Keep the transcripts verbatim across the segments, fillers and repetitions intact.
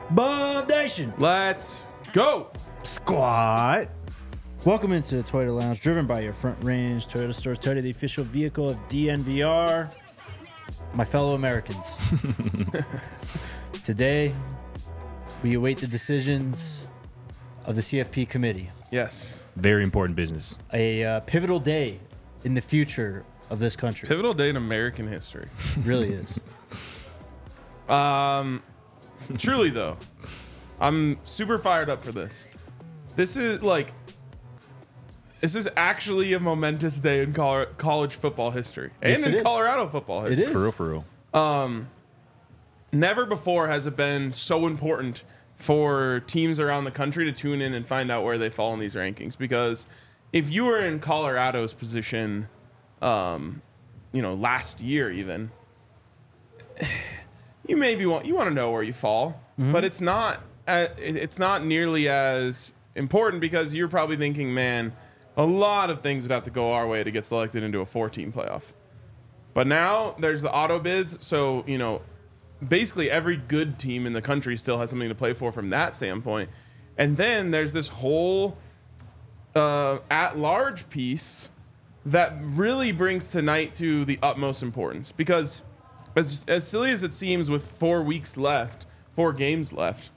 Bum Nation. Let's go. Squad. Welcome into the Toyota Lounge, driven by your Front Range Toyota Stores Toyota, the official vehicle of D N V R. My fellow Americans. Today, we await the decisions of the C F P committee. Yes. Very important business. A uh, pivotal day in the future of this country. Pivotal day in American history. It really is. Um, truly though, I'm super fired up for this. This is like, this is actually a momentous day in col- college football history and Yes, it in is. Colorado football It history. is. For real, for real. Um, never before has it been so important for teams around the country to tune in and find out where they fall in these rankings. Because if you were in Colorado's position, um, you know, last year even, you maybe want you want to know where you fall, Mm-hmm. but it's not uh, it- it's not nearly as important because you're probably thinking, man, a lot of things would have to go our way to get selected into a four-team playoff. But now there's the auto bids, so you know, basically every good team in the country still has something to play for from that standpoint. And then there's this whole uh, at-large piece that really brings tonight to the utmost importance. Because as, as silly as it seems with four weeks left, four games left,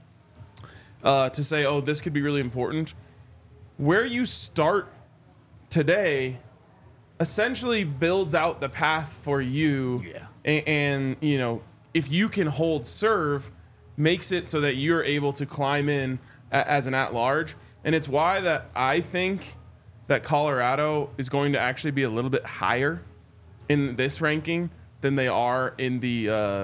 uh, to say, oh, this could be really important, where you start today essentially builds out the path for you. Yeah. And, and, you know, if you can hold serve, makes it so that you're able to climb in a, as an at-large. And it's why that I think that Colorado is going to actually be a little bit higher in this ranking than they are in the uh,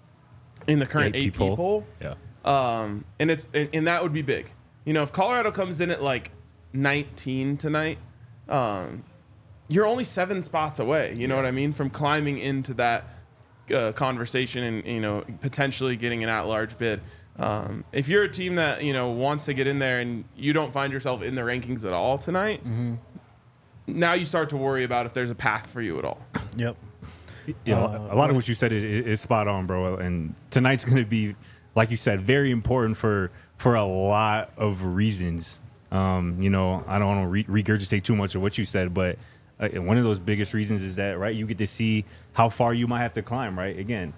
in the current A P poll. Yeah. Um, and it's and, and that would be big. You know, if Colorado comes in at like nineteen tonight, um, you're only seven spots away. You know what I mean, from climbing into that uh, conversation and you know potentially getting an at-large bid. Um, if you're a team that you know wants to get in there and you don't find yourself in the rankings at all tonight, Mm-hmm. now you start to worry about if there's a path for you at all. Yep. Yeah, Uh, a lot of what you said is, is spot on, bro. And tonight's going to be, like you said, very important for for a lot of reasons. Um, you know, I don't want to re- regurgitate too much of what you said, but uh, one of those biggest reasons is that, right, you get to see how far you might have to climb, right? Again,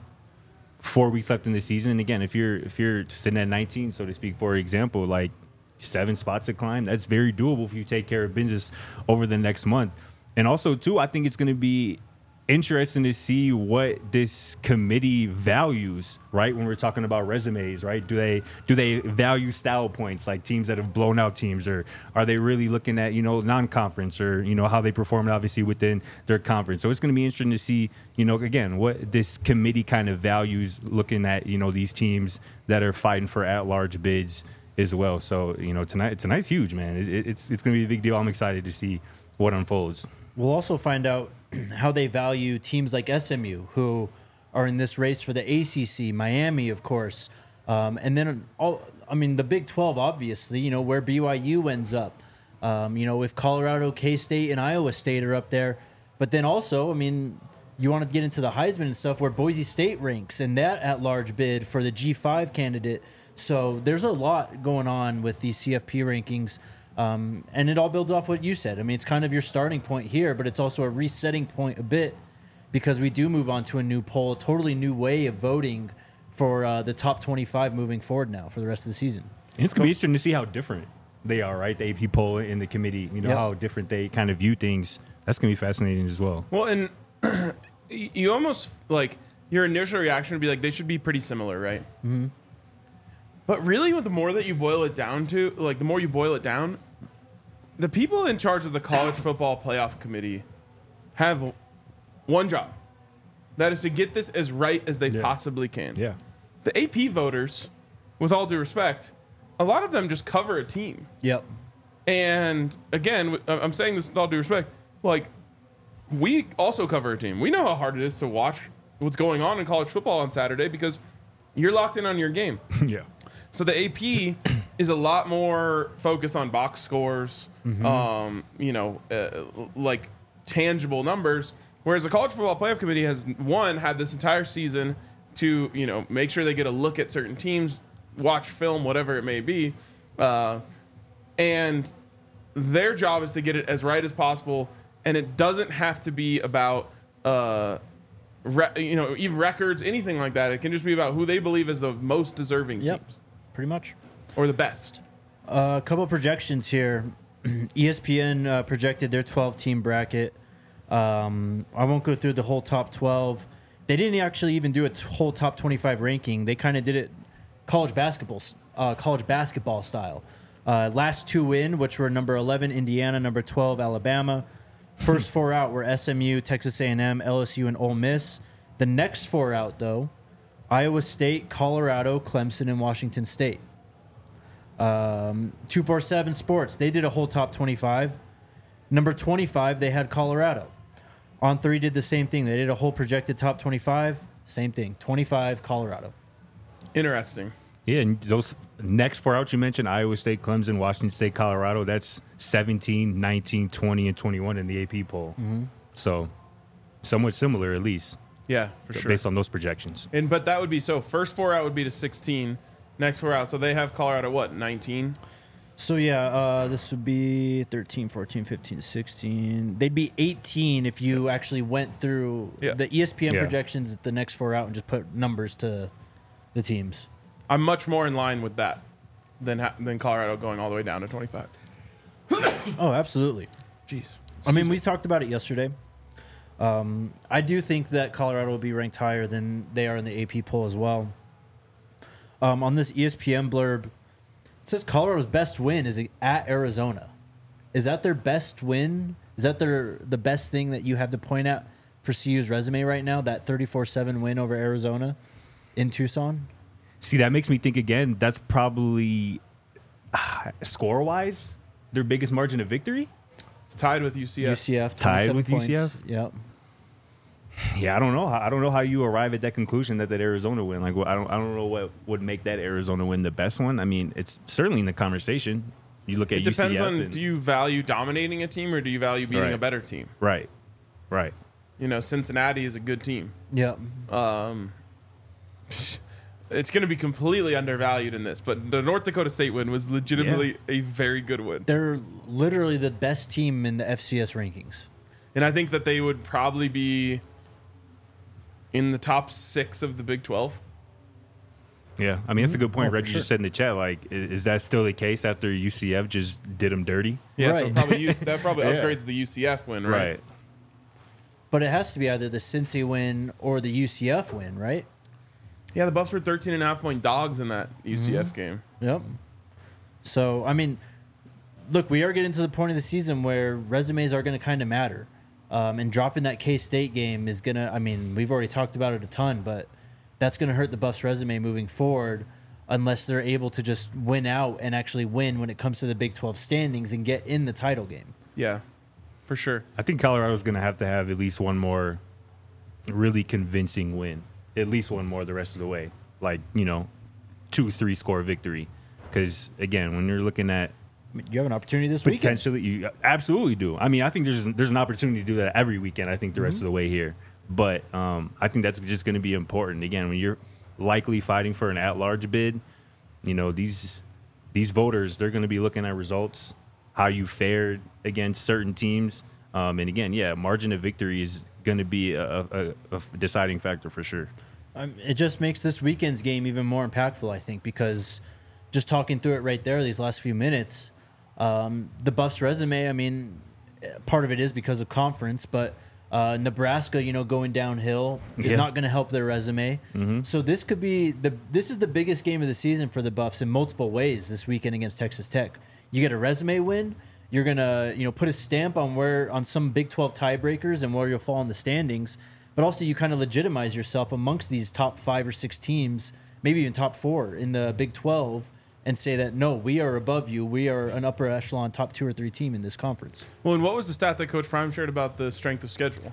four weeks left in the season. And again, if you're if you're sitting at nineteen, so to speak, for example, like seven spots to climb, that's very doable if you take care of business over the next month. And also, too, I think it's going to be interesting to see what this committee values, right? When we're talking about resumes, right? Do they do they value style points like teams that have blown out teams, or are they really looking at, you know, non-conference or, you know, how they performed obviously within their conference? So it's going to be interesting to see, you know, again, what this committee kind of values looking at, you know, these teams that are fighting for at-large bids as well. So, you know, tonight tonight's huge, man. It, it's it's going to be a big deal. I'm excited to see what unfolds. We'll also find out how they value teams like S M U, who are in this race for the A C C, Miami, of course. Um, and then, all, I mean, the Big twelve, obviously, you know, where B Y U ends up. Um, you know, if Colorado, K-State, and Iowa State are up there. But then also, I mean, you want to get into the Heisman and stuff where Boise State ranks and that at-large bid for the G five candidate. So there's a lot going on with these C F P rankings. Um, and it all builds off what you said. I mean, it's kind of your starting point here, but it's also a resetting point a bit because we do move on to a new poll, a totally new way of voting for uh, the top twenty-five moving forward now for the rest of the season. And it's going to be interesting to see how different they are, right? The A P poll and the committee, you know, Yep. how different they kind of view things. That's going to be fascinating as well. Well, and you almost like your initial reaction would be like they should be pretty similar, right? Mm-hmm. But really, the more that you boil it down to, like the more you boil it down, the people in charge of the college football playoff committee have one job. That is to get this as right as they Yeah. possibly can. Yeah. The A P voters, with all due respect, a lot of them just cover a team. Yep. And again, I'm saying this with all due respect, like we also cover a team. We know how hard it is to watch what's going on in college football on Saturday because you're locked in on your game. Yeah. So the A P is a lot more focused on box scores, Mm-hmm. um, you know, uh, like tangible numbers. Whereas the College Football Playoff Committee has, one, had this entire season to, you know, make sure they get a look at certain teams, watch film, whatever it may be, uh, and their job is to get it as right as possible, and it doesn't have to be about uh, re- you know even records, anything like that. It can just be about who they believe is the most deserving Yep, teams pretty much. or the best. Uh, a couple projections here. E S P N uh, projected their twelve-team bracket. Um, I won't go through the whole top twelve. They didn't actually even do a t- whole top twenty-five ranking. They kind of did it college basketball, uh, college basketball style. Uh, last two in, which were number eleven Indiana, number twelve Alabama. First four out were S M U, Texas A and M, L S U, and Ole Miss. The next four out, though, Iowa State, Colorado, Clemson, and Washington State. Um, two forty-seven Sports, they did a whole top twenty-five. Number twenty-five, they had Colorado. On three did the same thing. They did a whole projected top twenty-five. Same thing. twenty-five, Colorado. Interesting. Yeah, and those next four out you mentioned, Iowa State, Clemson, Washington State, Colorado, that's seventeen, nineteen, twenty, and twenty-one in the A P poll. Mm-hmm. So somewhat similar, at least, Yeah, for sure. based on those projections. And but that would be so. First four out would be to sixteen. Next four out. So they have Colorado what nineteen. So, yeah, uh, this would be thirteen, fourteen, fifteen, sixteen. They'd be eighteen if you actually went through Yeah. the E S P N Yeah. projections at the next four out and just put numbers to the teams. I'm much more in line with that than ha- than Colorado going all the way down to twenty-five. Oh, absolutely. Jeez. I mean, we talked about it yesterday. Um, I do think that Colorado will be ranked higher than they are in the A P poll as well. Um, on this E S P N blurb, it says Colorado's best win is at Arizona. Is that their best win? Is that their the best thing that you have to point at for C U's resume right now? That thirty-four seven win over Arizona in Tucson? See, that makes me think again, that's probably uh, score wise their biggest margin of victory. It's tied with U C F. U C F Tied twenty-seven with U C F? points. Yep. Yeah, I don't know. I don't know how you arrive at that conclusion that that Arizona win. Like, I don't, I don't know what would make that Arizona win the best one. I mean, it's certainly in the conversation. You look at It depends U C F on and- do you value dominating a team or do you value beating Right. a better team? right, right. You know, Cincinnati is a good team. Yep. Um, it's going to be completely undervalued in this, but the North Dakota State win was legitimately a very good win. They're literally the best team in the F C S rankings. And I think that they would probably be in the top six of the Big twelve. Yeah, I mean, that's a good point. Oh, for Reggie sure. just said in the chat, like, i- is that still the case after U C F just did them dirty? Yeah, so Right. probably use, that probably Yeah. upgrades the U C F win, right? But it has to be either the Cincy win or the U C F win, right? Yeah, the Buffs were thirteen and a half point dogs in that U C F Mm-hmm. game. Yep. So, I mean, look, we are getting to the point of the season where resumes are going to kind of matter. Um, and dropping that K-State game is going to, I mean, we've already talked about it a ton, but that's going to hurt the Buffs' resume moving forward unless they're able to just win out and actually win when it comes to the Big twelve standings and get in the title game. Yeah, for sure. I think Colorado's going to have to have at least one more really convincing win. At least one more the rest of the way. Like, you know, two, three score victory. Because, again, when you're looking at I mean, you have an opportunity this weekend. potentially, you absolutely do. I mean, I think there's there's an opportunity to do that every weekend, I think, the rest Mm-hmm. of the way here. But um, I think that's just going to be important. Again, when you're likely fighting for an at-large bid, you know, these these voters, they're going to be looking at results, how you fared against certain teams. Um, and again, yeah, margin of victory is going to be a, a, a deciding factor for sure. Um, it just makes this weekend's game even more impactful, I think, because just talking through it right there, these last few minutes, um, the Buffs' resume, I mean, part of it is because of conference, but uh, Nebraska, you know, going downhill is Yeah. not going to help their resume. So this could be the this is the biggest game of the season for the Buffs in multiple ways this weekend against Texas Tech. You get a resume win. You're gonna, you know, put a stamp on where on some Big twelve tiebreakers and where you'll fall in the standings. But also, you kind of legitimize yourself amongst these top five or six teams, maybe even top four in the Big twelve, and say that no, we are above you. We are an upper echelon, top two or three team in this conference. Well, and what was the stat that Coach Prime shared about the strength of schedule?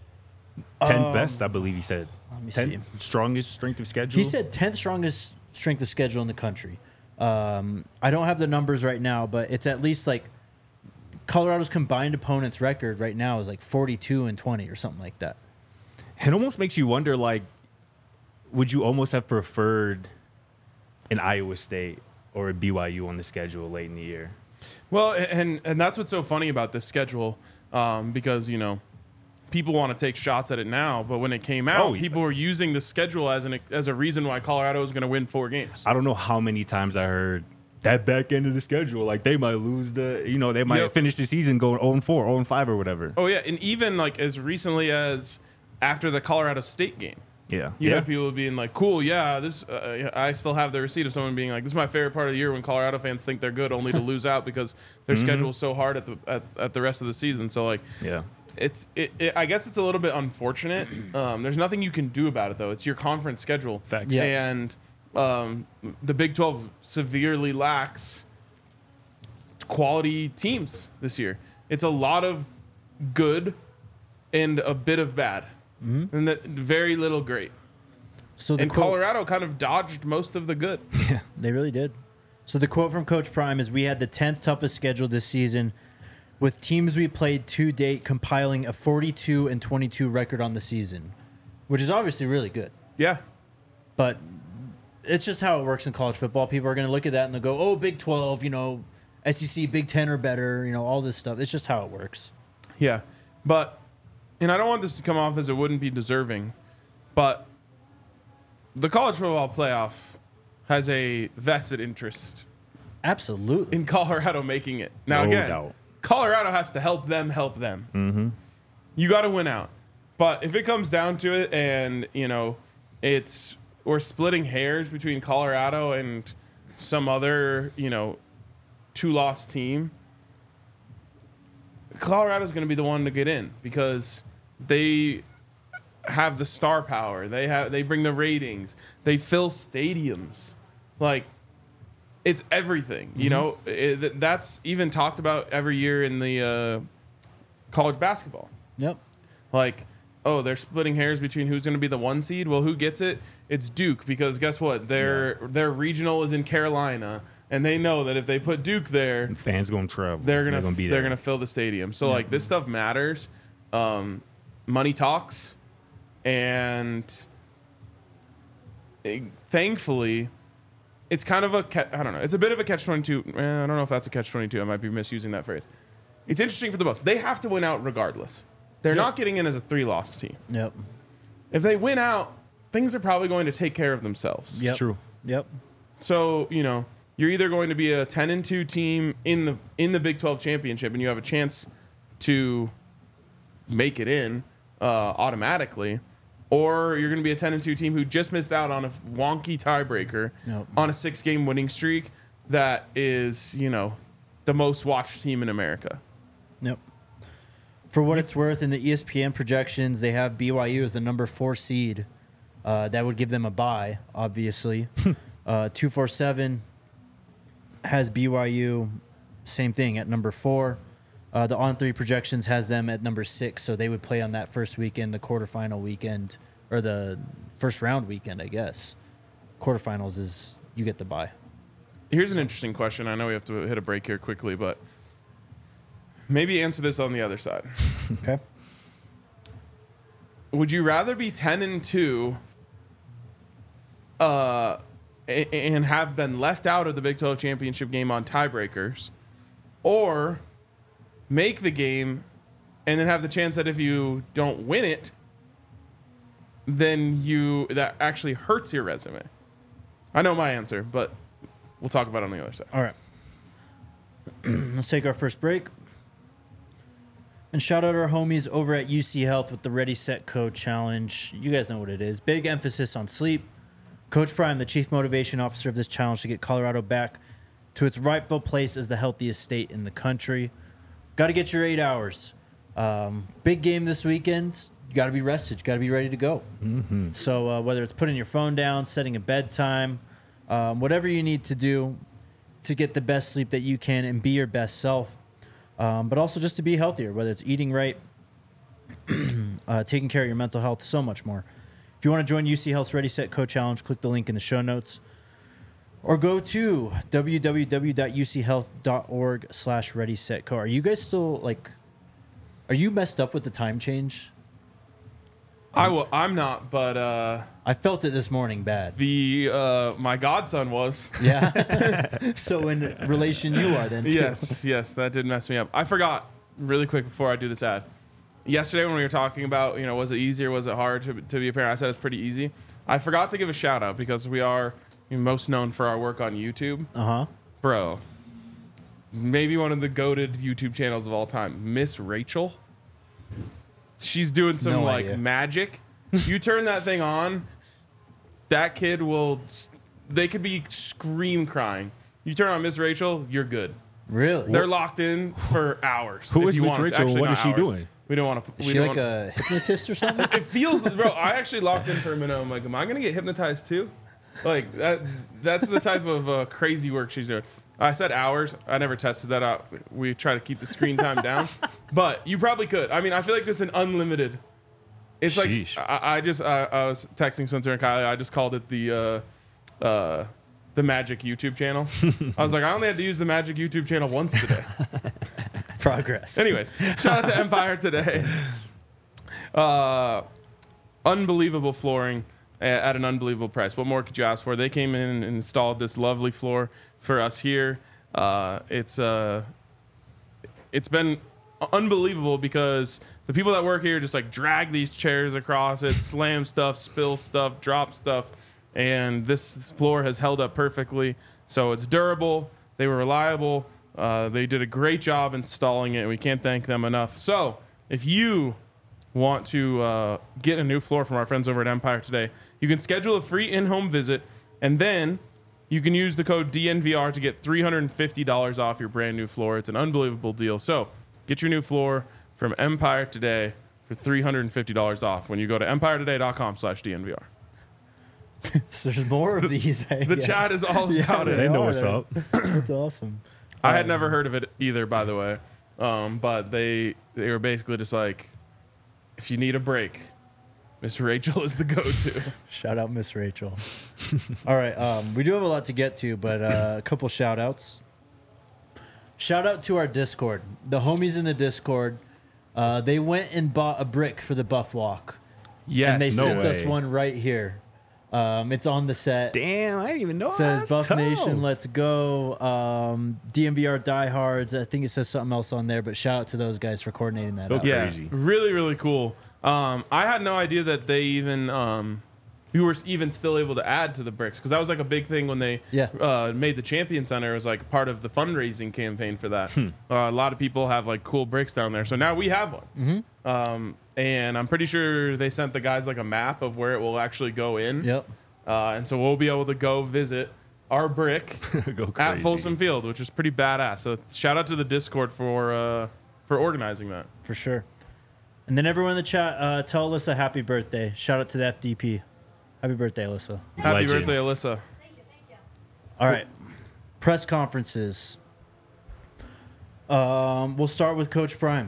tenth Um, best, I believe he said. Let me tenth see. strongest strength of schedule. He said tenth strongest strength of schedule in the country. Um, I don't have the numbers right now, but it's at least like Colorado's combined opponents record right now is like forty-two and twenty or something like that. It almost makes you wonder, like, would you almost have preferred an Iowa State or a B Y U on the schedule late in the year. Well, and and that's what's so funny about this schedule, um, because you know, people want to take shots at it now, but when it came out, Oh, yeah. people were using the schedule as an as a reason why Colorado was going to win four games. I don't know how many times I heard that back end of the schedule, like they might lose the, you know, they might Yep. finish the season going oh and four, oh and five or whatever. Oh yeah, and even like as recently as after the Colorado State game, Yeah. you yeah. had people being like, "Cool, yeah, this." Uh, I still have the receipt of someone being like, "This is my favorite part of the year when Colorado fans think they're good, only to lose out because their schedule is so hard at the at, at the rest of the season." So like, Yeah. it's it, it. I guess it's a little bit unfortunate. Um, there's nothing you can do about it though. It's your conference schedule, Facts. Yeah. and um, the Big twelve severely lacks quality teams this year. It's a lot of good and a bit of bad, and that very little great. So the And quote- Colorado kind of dodged most of the good. They really did. So the quote from Coach Prime is, "We had the tenth toughest schedule this season, with teams we played to date compiling a forty-two and twenty-two record on the season," which is obviously really good. Yeah. But it's just how it works in college football. People are going to look at that and they'll go, "Oh, Big twelve, you know, S E C, Big ten are better," you know, all this stuff. It's just how it works. Yeah. But, and I don't want this to come off as it wouldn't be deserving, but the college football playoff has a vested interest Absolutely. in Colorado making it. Now, No again, doubt. Colorado has to help them help them. Mm-hmm. You got to win out. But if it comes down to it and, you know, it's we're splitting hairs between Colorado and some other, you know, two-loss team, Colorado's going to be the one to get in because they have the star power. They have they bring the ratings. They fill stadiums. Like, it's everything. You know, it, that's even talked about every year in the uh, college basketball. Yep. Like, oh, they're splitting hairs between who's going to be the one seed. Well, who gets it? It's Duke, because guess what? Their their regional is in Carolina, and they know that if they put Duke there, And fans going to travel. they're gonna, be they're there. gonna fill the stadium. So like this stuff matters. Um, money talks, and it- thankfully, it's kind of a ca- I don't know. It's a bit of a catch twenty-two. Eh, I don't know if that's a catch twenty-two. I might be misusing that phrase. It's interesting for the Bucks. They have to win out regardless. They're not getting in as a three-loss team. Yep. If they win out, things are probably going to take care of themselves. Yep. It's true. Yep. So, you know, you're either going to be a ten and two team in the in the Big twelve championship and you have a chance to make it in uh, automatically, or you're going to be a ten and two team who just missed out on a wonky tiebreaker Yep. on a six game winning streak that is, you know, the most watched team in America. Yep. For what it's worth, in the E S P N projections, they have B Y U as the number four seed. Uh, that would give them a bye, obviously. uh, two forty-seven has B Y U, same thing, at number four. Uh, the On three projections has them at number six, so they would play on that first weekend, the quarterfinal weekend, or the first round weekend, I guess. Quarterfinals is you get the bye. Here's an interesting question. I know we have to hit a break here quickly, but maybe answer this on the other side. Okay. Would you rather be ten and two uh, a- and have been left out of the Big twelve championship game on tiebreakers, or make the game and then have the chance that if you don't win it, then you that actually hurts your resume? I know my answer, but we'll talk about it on the other side. All right. Let's take our first break. And shout out our homies over at U C Health with the Ready, Set, Code Challenge. You guys know what it is. Big emphasis on sleep. Coach Prime, the chief motivation officer of this challenge, to get Colorado back to its rightful place as the healthiest state in the country. Got to get your eight hours. Um, big game this weekend. You got to be rested. You got to be ready to go. Mm-hmm. So uh, whether it's putting your phone down, setting a bedtime, um, whatever you need to do to get the best sleep that you can and be your best self, um, but also just to be healthier, whether it's eating right, uh, taking care of your mental health, so much more. If you want to join U C Health's Ready, Set, Code Challenge, click the link in the show notes. Or go to w w w dot u c health dot org slash ready set co. Are you guys still, like, are you messed up with the time change? I will. I'm not, but uh, I felt it this morning bad. the uh, my godson was. Yeah. So in relation, you are then too. Yes, yes, that did mess me up. I forgot really quick before I do this ad. Yesterday when we were talking about, you know, was it easy or was it hard to, to be a parent? I said it's pretty easy. I forgot to give a shout out because we are most known for our work on YouTube. Uh huh. Bro, maybe one of the goated YouTube channels of all time, Miss Rachel. She's doing some No like idea. magic. You turn that thing on, that kid will. They could be scream crying. You turn on Miss Rachel, you're good. Really? They're locked in for hours. Who if is you Miss want. Rachel? Actually, What not is she hours. doing? We don't want to. Is we she don't like a hypnotist or something? It feels, bro. I actually locked in for a minute. I'm like, am I gonna get hypnotized too? Like that. That's the type of uh, crazy work she's doing. I said hours. I never tested that out. We try to keep the screen time down, but you probably could. I mean, I feel like it's an unlimited. It's Sheesh. like I, I just I, I was texting Spencer and Kylie. I just called it the uh, uh, the Magic YouTube channel. I was like, I only had to use the Magic YouTube channel once today. Progress. Anyways, shout out to Empire today. Uh, unbelievable flooring a- at an unbelievable price. What more could you ask for? They came in and installed this lovely floor for us here. Uh, it's uh, it's been unbelievable because the people that work here just like drag these chairs across it, slam stuff, spill stuff, drop stuff, and this floor has held up perfectly. So it's durable. They were reliable. Uh, they did a great job installing it, and we can't thank them enough. So if you want to uh, get a new floor from our friends over at Empire today, you can schedule a free in-home visit, and then you can use the code D N V R to get three hundred fifty dollars off your brand new floor. It's an unbelievable deal. So get your new floor from Empire today for three hundred fifty dollars off when you go to empire today dot com slash D N V R. So there's more of these. I The guess. chat is all Yeah, about it. They know are. what's up. That's awesome. I had never heard of it either, by the way. Um, but they they were basically just like, if you need a break, Miss Rachel is the go-to. Shout out Miss Rachel. All right. Um, we do have a lot to get to, but uh, a couple shout outs. Shout out to our Discord. The homies in the Discord, uh, they went and bought a brick for the Buff Walk. Yes. And they No sent us way. one right here. Um, it's on the set. Damn, I didn't even know. It says That's Buff tough. Nation, let's go. Um, D M V R diehards. I think it says something else on there, but shout out to those guys for coordinating that. out. Okay. Yeah, Crazy. really, really cool. Um, I had no idea that they even um, we were even still able to add to the bricks because that was like a big thing when they Yeah. uh, made the Champion Center. It was like part of the fundraising campaign for that. Uh, a lot of people have like cool bricks down there, so now we have one. Mm-hmm. Um, and I'm pretty sure they sent the guys like a map of where it will actually go in. Yep. Uh, and so we'll be able to go visit our brick Go at crazy. Folsom Field, which is pretty badass. So shout out to the Discord for uh, for organizing that. For sure. And then everyone in the chat, uh, tell Alyssa happy birthday. Shout out to the F D P. Happy birthday, Alyssa. Happy Legend. birthday, Alyssa. All right. Press conferences. Um, we'll start with Coach Prime.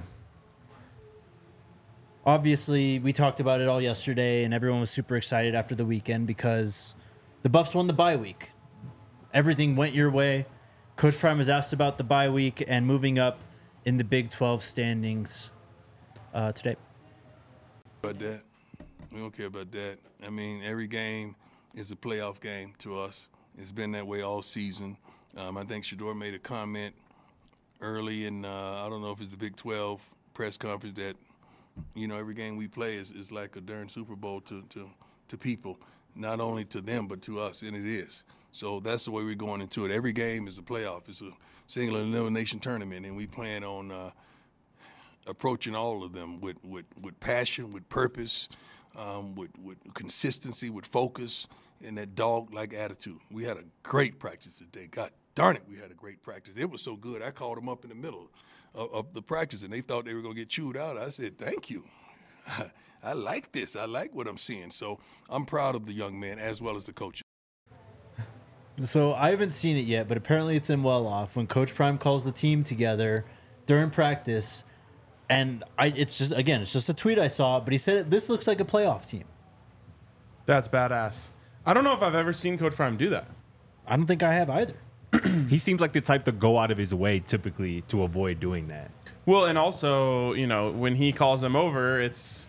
Obviously, we talked about it all yesterday, and everyone was super excited after the weekend because the Buffs won the bye week. Everything went your way. Coach Prime was asked about the bye week and moving up in the Big twelve standings uh, today. About that. We don't care about that. I mean, every game is a playoff game to us. It's been that way all season. Um, I think Shador made a comment early in, uh, I don't know if it's the Big twelve press conference that, you know, every game we play is, is like a darn Super Bowl to, to, to people, not only to them, but to us, and it is. So that's the way we're going into it. Every game is a playoff. It's a single elimination tournament, and we plan on uh, approaching all of them with, with, with passion, with purpose, um, with, with consistency, with focus, and that dog-like attitude. We had a great practice today. God darn it, we had a great practice. It was so good, I called them up in the middle of, of the practice, and they thought they were going to get chewed out. I said, thank you. I, I like this. I like what I'm seeing. So I'm proud of the young man as well as the coaches. So I haven't seen it yet, but apparently it's in Well Off when Coach Prime calls the team together during practice. And I, it's just, again, it's just a tweet I saw, but he said, this looks like a playoff team. That's badass. I don't know if I've ever seen Coach Prime do that. I don't think I have either. He seems like the type to go out of his way typically to avoid doing that. Well, and also, you know, when he calls them over, it's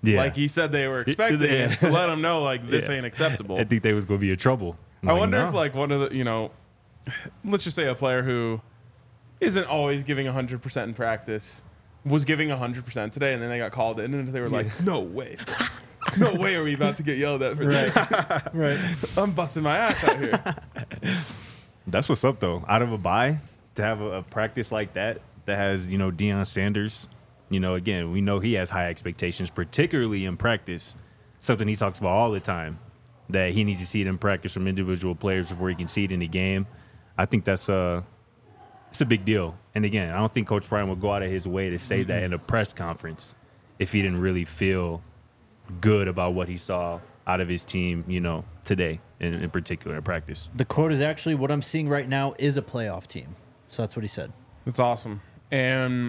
Yeah. Like he said they were expecting Yeah. it to let them know like this Yeah. ain't acceptable. I think they was going to be in trouble. I'm I like, wonder no. if like one of the, you know, let's just say a player who isn't always giving one hundred percent in practice was giving one hundred percent today, and then they got called in and they were like, no way. No way are we about to get yelled at for this. Right. I'm busting my ass out here. That's what's up, though. Out of a bye, to have a, a practice like that that has, you know, Deion Sanders, you know, again, we know he has high expectations, particularly in practice, something he talks about all the time, that he needs to see it in practice from individual players before he can see it in the game. I think that's a, it's a big deal. And again, I don't think Coach Prime would go out of his way to say mm-hmm. that in a press conference if he didn't really feel good about what he saw out of his team, you know, today in, in particular in practice. The quote is actually, what I'm seeing right now is a playoff team. So that's what he said. That's awesome. And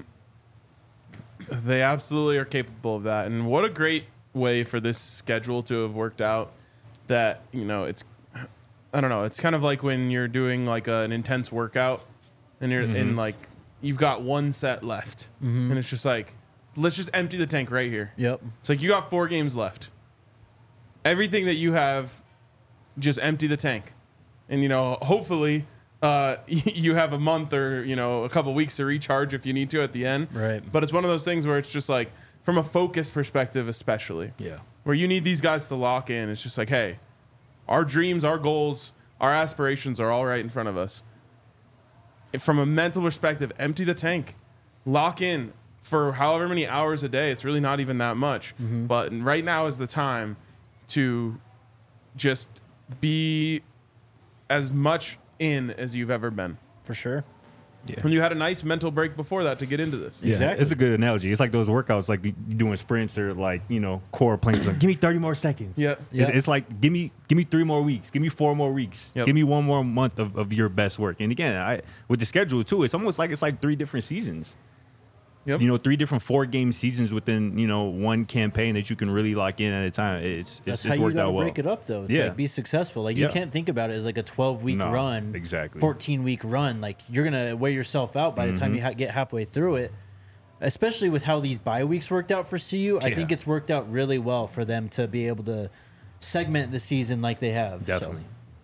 they absolutely are capable of that. And what a great way for this schedule to have worked out that, you know, it's, I don't know, it's kind of like when you're doing like a, an intense workout and you're mm-hmm. in like, you've got one set left mm-hmm. and it's just like, let's just empty the tank right here. Yep. It's like you got four games left. Everything that you have, just empty the tank. And, you know, hopefully uh, you have a month or, you know, a couple weeks to recharge if you need to at the end. Right. But it's one of those things where it's just like, from a focus perspective especially, yeah, where you need these guys to lock in. It's just like, hey, our dreams, our goals, our aspirations are all right in front of us. If from a mental perspective, empty the tank. Lock in for however many hours a day. It's really not even that much. Mm-hmm. But right now is the time to just be as much in as you've ever been. For sure. Yeah. When you had a nice mental break before that to get into this. Yeah, exactly. It's a good analogy. It's like those workouts, like you doing sprints or like, you know, core planes. Like, give me thirty more seconds. Yeah. It's, yeah. it's like, give me give me three more weeks. Give me four more weeks. Yep. Give me one more month of, of your best work. And again, I with the schedule too, it's almost like it's like three different seasons. Yep. You know, three different four-game seasons within, you know, one campaign that you can really lock in at a time. It's That's it's, it's how worked you gotta out well. break it up, though. It's Yeah. like be successful. Like Yeah. you can't think about it as like a twelve-week No, run, exactly. fourteen-week run. Like you're gonna wear yourself out by the time Mhm. you ha- get halfway through it. Especially with how these bye weeks worked out for C U, I Yeah. think it's worked out really well for them to be able to segment the season like they have. so. Definitely.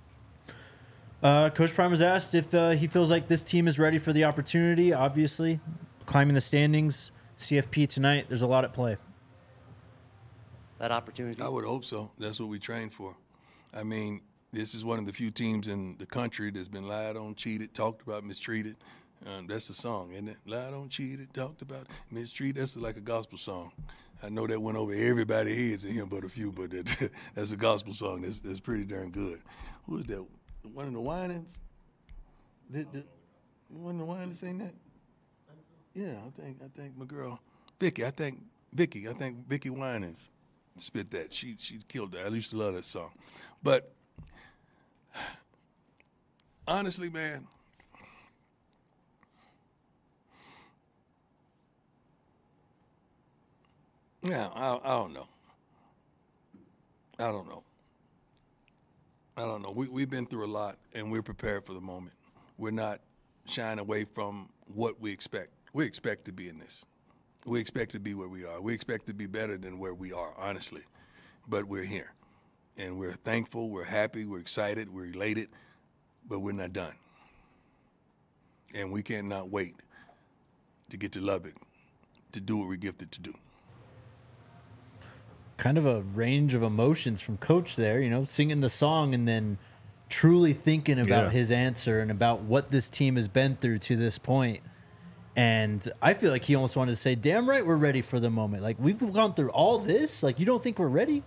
Uh, Coach Prime was asked if uh, he feels like this team is ready for the opportunity. Obviously, climbing the standings, C F P tonight. There's a lot at play. That opportunity. I would hope so. That's what we train for. I mean, this is one of the few teams in the country that's been lied on, cheated, talked about, mistreated. Um, that's the song, isn't it? Lied on, cheated, talked about, mistreated. That's like a gospel song. I know that went over everybody's heads in here but a few, but that, that's a gospel song. That's, that's pretty darn good. Who is that? One of the Winans? Did, did, one of the Winans saying that? Yeah, I think I think my girl Vicky. I think Vicky. I think Vicky Winans spit that. She she killed that. I used to love that song, but honestly, man, yeah, I I don't know. I don't know. I don't know. We we've been through a lot, and we're prepared for the moment. We're not shying away from what we expect. We expect to be in this. We expect to be where we are. We expect to be better than where we are, honestly. But we're here. And we're thankful, we're happy, we're excited, we're elated, but we're not done. And we cannot wait to get to Lubbock to do what we're gifted to do. Kind of a range of emotions from Coach there, you know, singing the song and then truly thinking about Yeah. his answer and about what this team has been through to this point. And I feel like he almost wanted to say, damn right, we're ready for the moment. Like, we've gone through all this. Like, you don't think we're ready?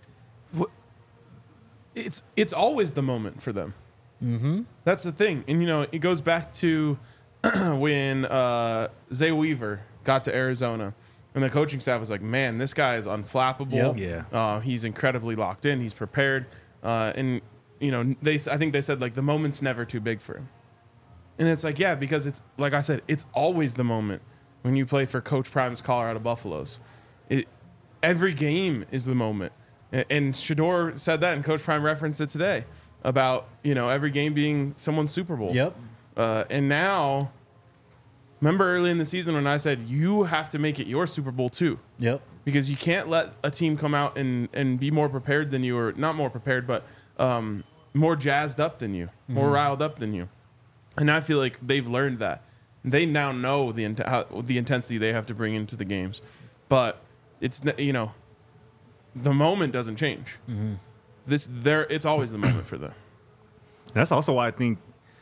It's it's always the moment for them. Mm-hmm. That's the thing. And, you know, it goes back to when uh, Zay Weaver got to Arizona. And the coaching staff was like, man, this guy is unflappable. Yep. Yeah. Uh, he's incredibly locked in. He's prepared. Uh, and, you know, they I think they said, like, the moment's never too big for him. And it's like, yeah, because it's, like I said, it's always the moment when you play for Coach Prime's Colorado Buffaloes. It, every game is the moment. And, and Shedeur said that, and Coach Prime referenced it today about, you know, every game being someone's Super Bowl. Yep. Uh, and now, remember early in the season when I said, you have to make it your Super Bowl too. Yep. because you can't let a team come out and, and be more prepared than you, or not more prepared, but um, more jazzed up than you, more Mm-hmm. riled up than you. And I feel like they've learned that. They now know the int- how, the intensity they have to bring into the games. But it's, n- you know, the moment doesn't change. Mm-hmm. This there, it's always the moment for them. That's also why I think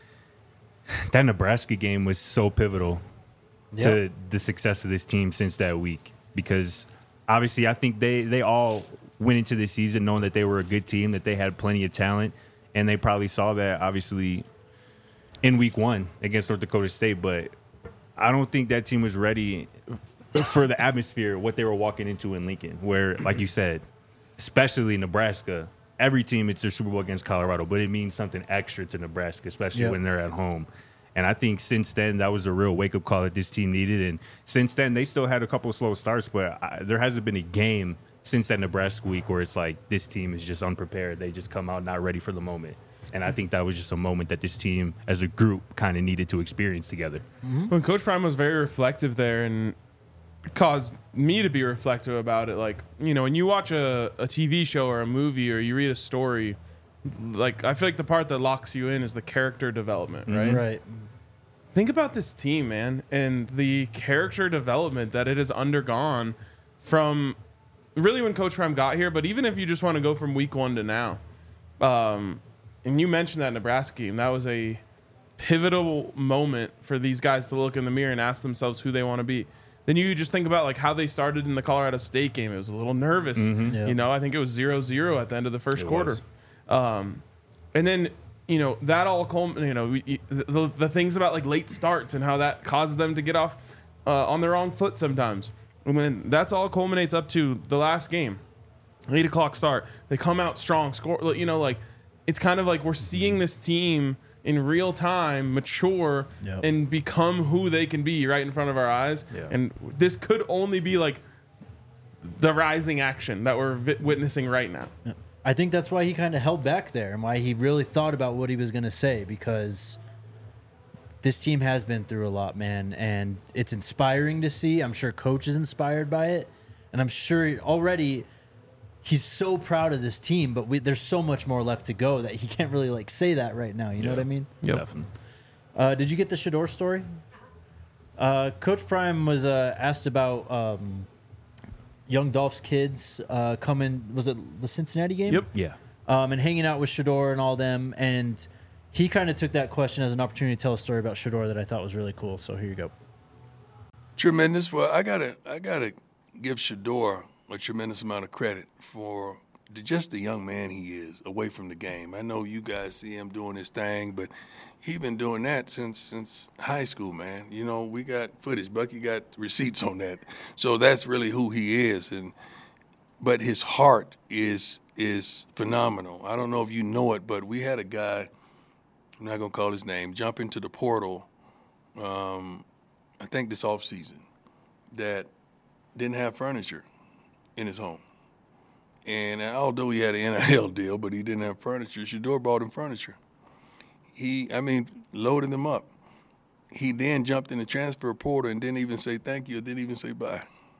that Nebraska game was so pivotal Yep. to the success of this team since that week. Because obviously, I think they they all went into the season knowing that they were a good team, that they had plenty of talent, and they probably saw that obviously in week one against North Dakota State. But I don't think that team was ready for the atmosphere, what they were walking into in Lincoln, where, like you said, especially Nebraska, every team, it's their Super Bowl against Colorado, but it means something extra to Nebraska, especially Yep. when they're at home. And I think since then, that was a real wake-up call that this team needed. And since then, they still had a couple of slow starts, but I, there hasn't been a game since that Nebraska week where it's like this team is just unprepared. They just come out not ready for the moment. And I think that was just a moment that this team as a group kind of needed to experience together. When Coach Prime was very reflective there and caused me to be reflective about it, like, you know, when you watch a, a T V show or a movie or you read a story, like, I feel like the part that locks you in is the character development, right? Right. Think about this team, man, and the character development that it has undergone from really when Coach Prime got here, but even if you just want to go from week one to now. Um, and you mentioned that Nebraska game. That was a pivotal moment for these guys to look in the mirror and ask themselves who they want to be. Then you just think about like how they started in the Colorado State game. It was a little nervous. Yeah. You know, I think it was zero zero at the end of the first It quarter. was. Um, and then, you know, that all, culm- you know, we- the, the things about like late starts and how that causes them to get off uh, on the wrong foot sometimes. And then that's all culminates up to the last game, eight o'clock start. They come out strong, score, you know, like it's kind of like we're seeing this team in real time mature Yep. and become who they can be right in front of our eyes. Yeah. And this could only be like the rising action that we're vi- witnessing right now. I think that's why he kind of held back there and why he really thought about what he was going to say, because this team has been through a lot, man, and it's inspiring to see. I'm sure Coach is inspired by it, and I'm sure already he's so proud of this team, but we, there's so much more left to go that he can't really like say that right now. You know what I mean? Yep. Definitely. Uh, did you get the Shador story? Uh, Coach Prime was uh, asked about um, young Dolph's kids uh, coming. Was it the Cincinnati game? Yep. Yeah. Um, and hanging out with Shador and all them, and he kind of took that question as an opportunity to tell a story about Shador that I thought was really cool. So here you go. Tremendous. Well, I gotta, I gotta give Shador a tremendous amount of credit for the, just the young man he is away from the game. I know you guys see him doing his thing, but he's been doing that since since high school, man. You know, we got footage. Bucky got receipts on that, so that's really who he is. And but his heart is is phenomenal. I don't know if you know it, but we had a guy, I'm not gonna call his name, jump into the portal. Um, I think this off season, that didn't have furniture in his home. And although he had an N I L deal, but he didn't have furniture, Shador bought him furniture. He, I mean, loaded them up. He then jumped in the transfer portal and didn't even say thank you, didn't even say bye.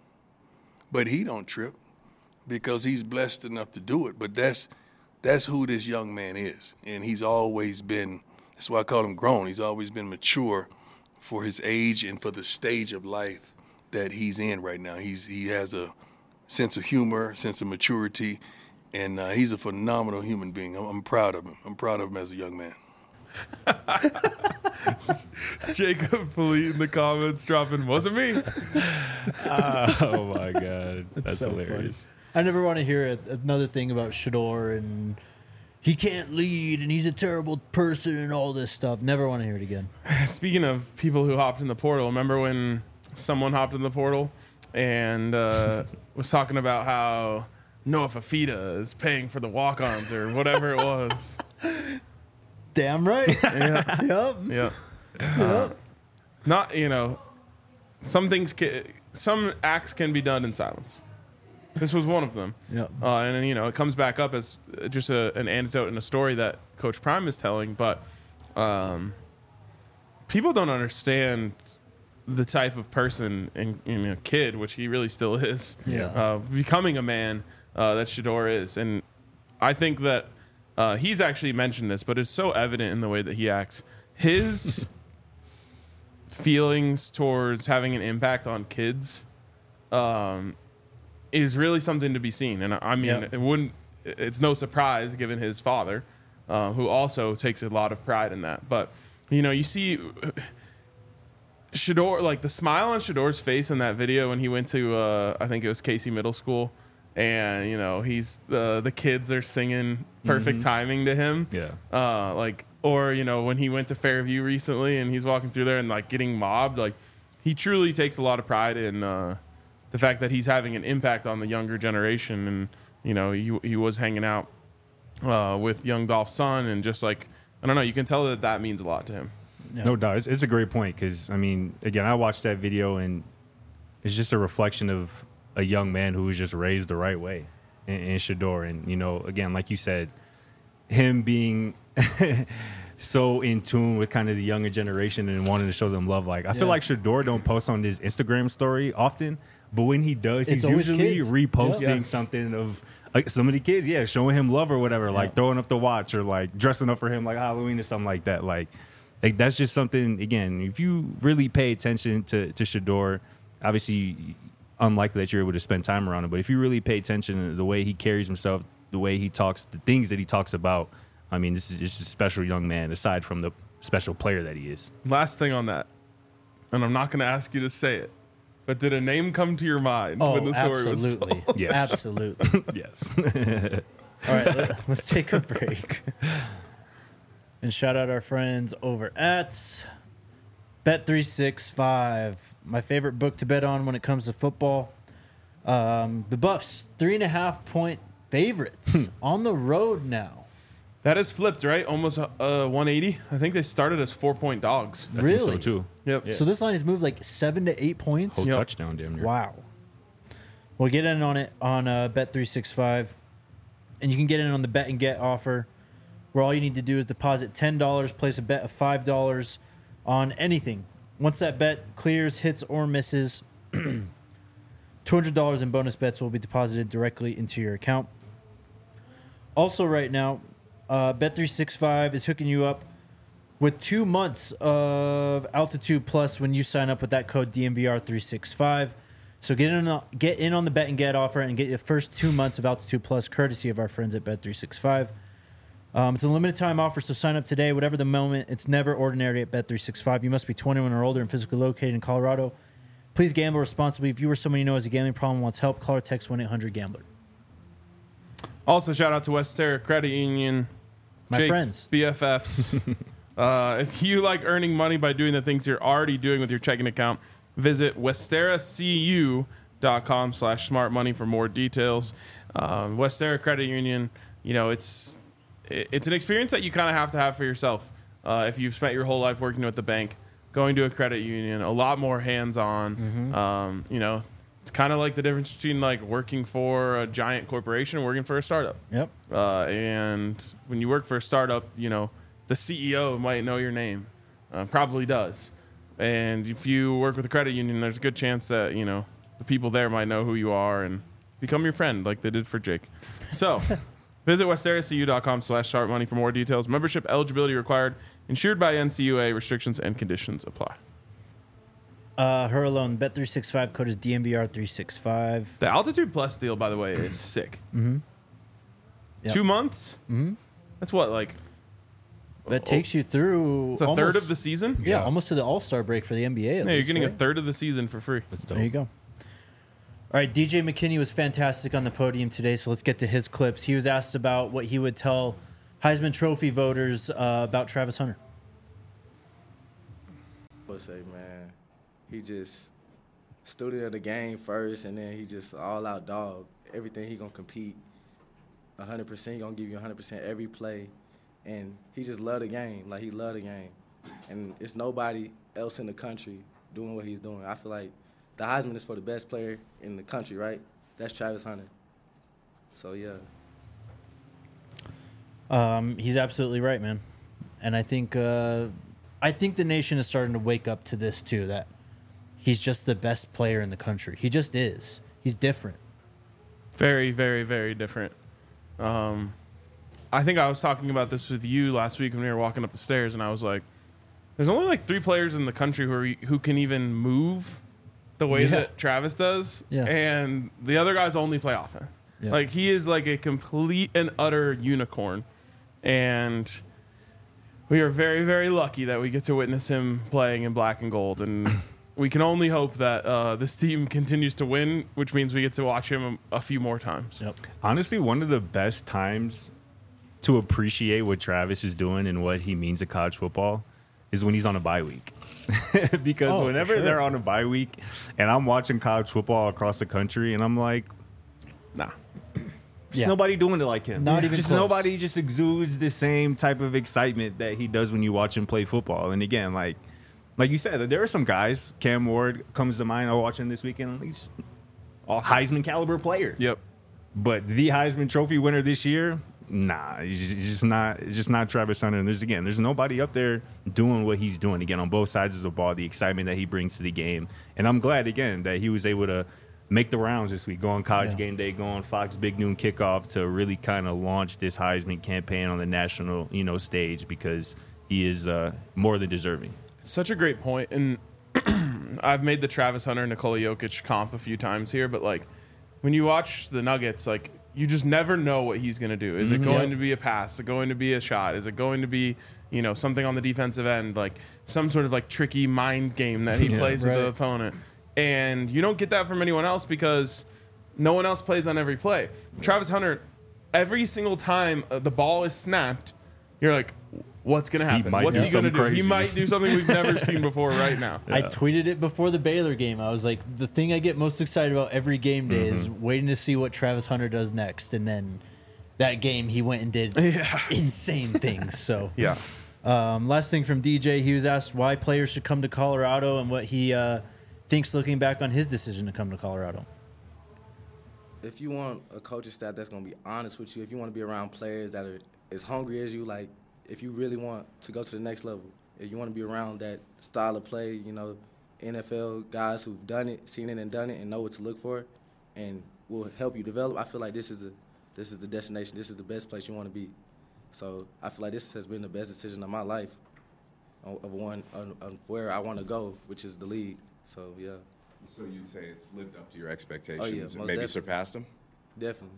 But he don't trip because he's blessed enough to do it. But that's that's who this young man is. And he's always been, that's why I call him grown. He's always been mature for his age and for the stage of life that he's in right now. He's He has a sense of humor, sense of maturity, and uh, he's a phenomenal human being. I'm, I'm proud of him. I'm proud of him as a young man. Jacob Polite in the comments dropping, wasn't me. Oh my God, that's so hilarious. funny. I never want to hear a, another thing about Shador and he can't lead and he's a terrible person and all this stuff. Never want to hear it again. Speaking of people who hopped in the portal, remember when someone hopped in the portal and uh, was talking about how Noah Fafita is paying for the walk-ons or whatever it was? Damn right. Yeah. Yep. Yeah. Uh, not, you know, some things, can, some acts can be done in silence. This was one of them. Yep. Uh, and, then, you know, it comes back up as just a, an anecdote and a story that Coach Prime is telling. But um, people don't understand the type of person and, and a kid, which he really still is, Yeah. uh, becoming a man uh, that Shedeur is. And I think that uh, he's actually mentioned this, but it's so evident in the way that he acts. His feelings towards having an impact on kids um, is really something to be seen. And I I mean, Yeah. it wouldn't, it's no surprise given his father, uh, who also takes a lot of pride in that. But, you know, you see Shedeur, like the smile on Shedeur's face in that video when he went to, uh, I think it was Casey Middle School, and you know he's the the kids are singing perfect timing to him. Yeah. Uh, like or you know when he went to Fairview recently and he's walking through there and like getting mobbed, like he truly takes a lot of pride in uh, the fact that he's having an impact on the younger generation. And you know he he was hanging out uh, with young Dolph's son, and just like I don't know, you can tell that that means a lot to him. Yeah. No doubt. It's, it's a great point because, I mean, again, I watched that video and it's just a reflection of a young man who was just raised the right way in, in Shedeur. And, you know, again, like you said, him being so in tune with kind of the younger generation and wanting to show them love. Like, I Yeah. feel like Shedeur don't post on his Instagram story often, but when he does, It's he's always usually kids. reposting Yeah. something of like some of the kids, yeah, showing him love or whatever, like throwing up the watch or like dressing up for him like Halloween or something like that. Like, like that's just something, again, if you really pay attention to, to Shedeur, obviously unlikely that you're able to spend time around him, but if you really pay attention to the way he carries himself, the way he talks, the things that he talks about, I mean, this is just a special young man aside from the special player that he is. Last thing on that, and I'm not going to ask you to say it, but did a name come to your mind Oh, when the story was absolutely. told? Yes. Absolutely. Yes. All right, let, let's take a break. And shout out our friends over at Bet three sixty-five, my favorite book to bet on when it comes to football. Um, the Buffs, three and a half point favorites on the road now. That is flipped, right? Almost uh, one eighty. I think they started as four point dogs. I Really? think so too. Yep. So this line has moved like seven to eight points. Whole Yep. touchdown, damn near. Wow. We'll get in on it on uh, Bet three sixty-five. And you can get in on the bet and get offer, where all you need to do is deposit ten dollars, place a bet of five dollars on anything. Once that bet clears, hits, or misses, two hundred dollars in bonus bets will be deposited directly into your account. Also, right now, uh, Bet three sixty-five is hooking you up with two months of Altitude Plus when you sign up with that code D M V R three sixty-five. So get in, on, get in on the bet and get offer and get your first two months of Altitude Plus courtesy of our friends at Bet three sixty-five. Um, it's a limited time offer, so sign up today. Whatever the moment, it's never ordinary at Bet three sixty-five. You must be twenty-one or older and physically located in Colorado. Please gamble responsibly. If you or someone you know has a gambling problem and wants help, call or text one eight hundred gambler. Also, shout out to Westera Credit Union, My Jake's friends. B F Fs. uh, if you like earning money by doing the things you're already doing with your checking account, visit westeracu dot com slash smart money for more details. Um, Westera Credit Union, you know, it's it- it's an experience that you kind of have to have for yourself. Uh, if you've spent your whole life working with the bank, going to a credit union, a lot more hands-on. Um, you know, it's kind of like the difference between like working for a giant corporation and working for a startup. Yep. Uh, and when you work for a startup, you know, the C E O might know your name, uh, probably does. And if you work with a credit union, there's a good chance that, you know, the people there might know who you are and become your friend like they did for Jake. So visit westeracu dot com slash smart money for more details. Membership eligibility required. Insured by N C U A. Restrictions and conditions apply. Uh, her alone, Bet three sixty-five code is D M V R three sixty-five. The Altitude Plus deal, by the way, is sick. Mm-hmm. Yep. Two months? Mm-hmm. That's what, like, That takes you through. it's a almost, third of the season? Yeah, Yeah. almost to the All Star break for the N B A. At Yeah, you're least, getting a right? third of the season for free. That's dope. There you go. All right, D J McKinney was fantastic on the podium today, so let's get to his clips. He was asked about what he would tell Heisman Trophy voters uh, about Travis Hunter. I would say, man, he just studied the game first, and then he just all out dog. Everything he gonna compete, one hundred percent. He gonna give you one hundred percent every play, and he just love the game. Like he love the game, and it's nobody else in the country doing what he's doing. I feel like the Heisman is for the best player in the country, right? That's Travis Hunter. So yeah. Um, he's absolutely right, man. And I think uh, I think the nation is starting to wake up to this too. That he's just the best player in the country. He just is. He's different. Very, very, very different. Um, I think I was talking about this with you last week when we were walking up the stairs, and I was like, there's only like three players in the country who are, who can even move the way Yeah. that Travis does, Yeah. and the other guys only play offense. Yeah. Like, he is like a complete and utter unicorn, and we are very, very lucky that we get to witness him playing in black and gold, and we can only hope that uh, this team continues to win, which means we get to watch him a, a few more times. Yep. Honestly, one of the best times to appreciate what Travis is doing and what he means to college football is when he's on a bye week. Because Oh, for whenever sure. they're on a bye week and I'm watching college football across the country and I'm like, Nah. Just Yeah. nobody doing it like him. Not even just close. nobody just exudes the same type of excitement that he does when you watch him play football. And again, like like you said, there are some guys. Cam Ward comes to mind. I was watching this weekend. He's Awesome. Heisman caliber player. Yep. But the Heisman Trophy winner this year, nah, he's just, he's just not. It's just not Travis Hunter. And there's again, there's nobody up there doing what he's doing again on both sides of the ball. The excitement that he brings to the game, and I'm glad again that he was able to make the rounds this week, go on College Yeah. Game Day, go on Fox Big Noon Kickoff to really kind of launch this Heisman campaign on the national, you know, stage because he is uh, more than deserving. Such a great point. And I've made the Travis Hunter Nikola Jokic comp a few times here, but like when you watch the Nuggets, like you just never know what he's going to do. Is it going to be a pass? Is it going to be a shot? Is it going to be, you know, something on the defensive end, like some sort of like tricky mind game that he Yeah. plays with Right. the opponent? And you don't get that from anyone else because no one else plays on every play. Travis Hunter, every single time uh, the ball is snapped, you're like, what's going to happen? might What's do he going to something do? He crazy. might do something we've never seen before right now. I tweeted it before the Baylor game. I was like, the thing I get most excited about every game day is waiting to see what Travis Hunter does next. And then that game, he went and did Yeah. insane things. So, Yeah. um, last thing from D J, he was asked why players should come to Colorado and what he uh, thinks looking back on his decision to come to Colorado. If you want a coaching staff that's going to be honest with you, if you want to be around players that are as hungry as you, like if you really want to go to the next level, if you want to be around that style of play, you know, N F L guys who've done it, seen it and done it and know what to look for and will help you develop, I feel like this is the this is the destination. This is the best place you want to be. So I feel like this has been the best decision of my life of of one on, on where I want to go, which is the league. So, yeah, So you'd say it's lived up to your Oh, yeah, expectations, most maybe definitely. surpassed them? definitely.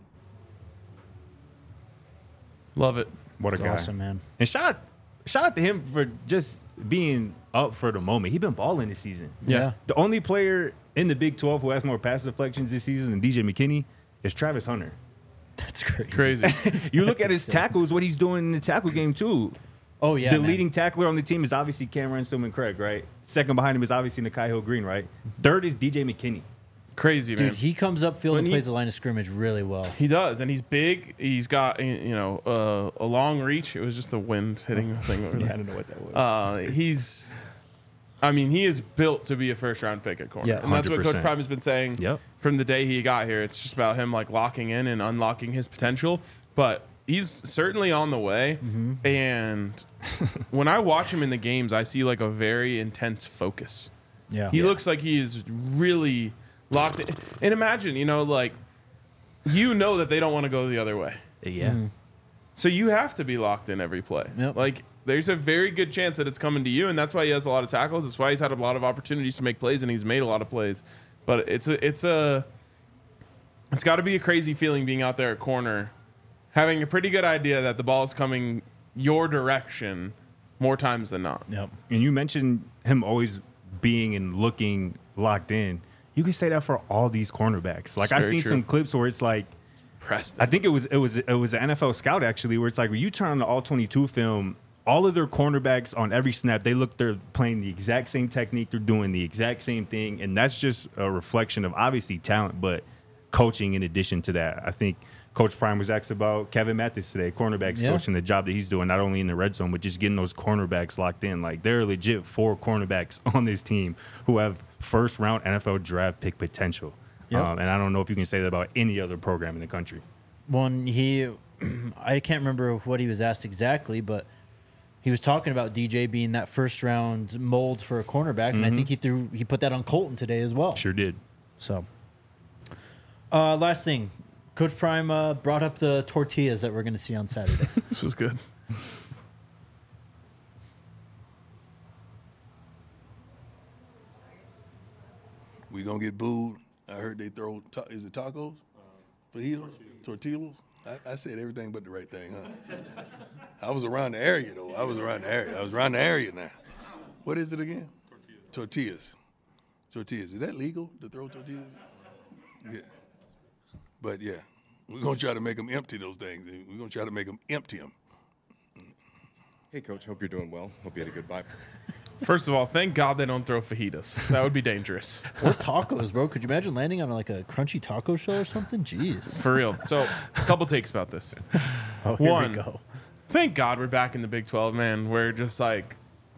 Love it. What a It's guy. awesome, man. And shout out, shout out to him for just being up for the moment. He's been balling this season. Yeah. The only player in the Big twelve who has more pass deflections this season than D J McKinney is Travis Hunter. That's crazy. Crazy. You look That's at his insane. tackles, what he's doing in the tackle game too. Oh, yeah. the man. leading tackler on the team is obviously Cameron Silman Craig, right? Second behind him is obviously Nikhai Hill Green, right? Third is D J McKinney. Crazy, man. Dude, he comes up field When and he- plays the line of scrimmage really well. He does, and he's big. He's got you know uh, a long reach. It was just the wind hitting the thing over Yeah, I there. don't know what that was. Uh, he's, I mean, he is built to be a first round pick at corner, Yeah. and that's what one hundred Coach percent. Prime has been saying Yep. from the day he got here. It's just about him like locking in and unlocking his potential, but he's certainly on the way. Mm-hmm. And when I watch him in the games, I see like a very intense focus. Yeah. He looks like he is really locked in. And imagine, you know, like, you know that they don't want to go the other way. yeah. So you have to be locked in every play. Yep. Like, there's a very good chance that it's coming to you, and that's why he has a lot of tackles. That's why he's had a lot of opportunities to make plays, and he's made a lot of plays. But it's a, it's a, it's got to be a crazy feeling being out there at corner, having a pretty good idea that the ball is coming your direction more times than not. Yep. And you mentioned him always being and looking locked in. You can say that for all these cornerbacks. Like It's I've very seen true. some clips where it's like, Preston. I think it was it was it was an N F L scout actually, where it's like when you turn on the all twenty-two film, all of their cornerbacks on every snap, they look they're playing the exact same technique, they're doing the exact same thing, and that's just a reflection of obviously talent, but coaching in addition to that. I think Coach Prime was asked about Kevin Mathis today, cornerbacks Yeah. coach, and the job that he's doing not only in the red zone, but just getting those cornerbacks locked in. Like there are legit four cornerbacks on this team who have first round N F L draft pick potential. Yep. Um, and I don't know if you can say that about any other program in the country. When he, I can't remember what he was asked exactly, but he was talking about D J being that first round mold for a cornerback, and I think he threw he put that on Colton today as well. Sure did. So, uh, last thing, Coach Prime uh, brought up the tortillas that we're going to see on Saturday. This was good. We gonna get booed. I heard they throw. Ta- is it tacos? Fajitas? Tortillas? I, I said everything but the right thing, huh? I was around the area though. I was around the area. I was around the area now. What is it again? Tortillas. Tortillas. Tortillas. Is that legal to throw tortillas? Yeah. But yeah, we're gonna try to make them empty those things. We're gonna try to make them empty them. Hey, Coach. Hope you're doing well. Hope you had a good bye. First of all, thank God they don't throw fajitas. That would be dangerous. Or tacos, bro. Could you imagine landing on like a crunchy taco show or something? Jeez. For real. So, a couple takes about this. Oh, here One, we go. Thank God we're back in the Big twelve, man. We're just like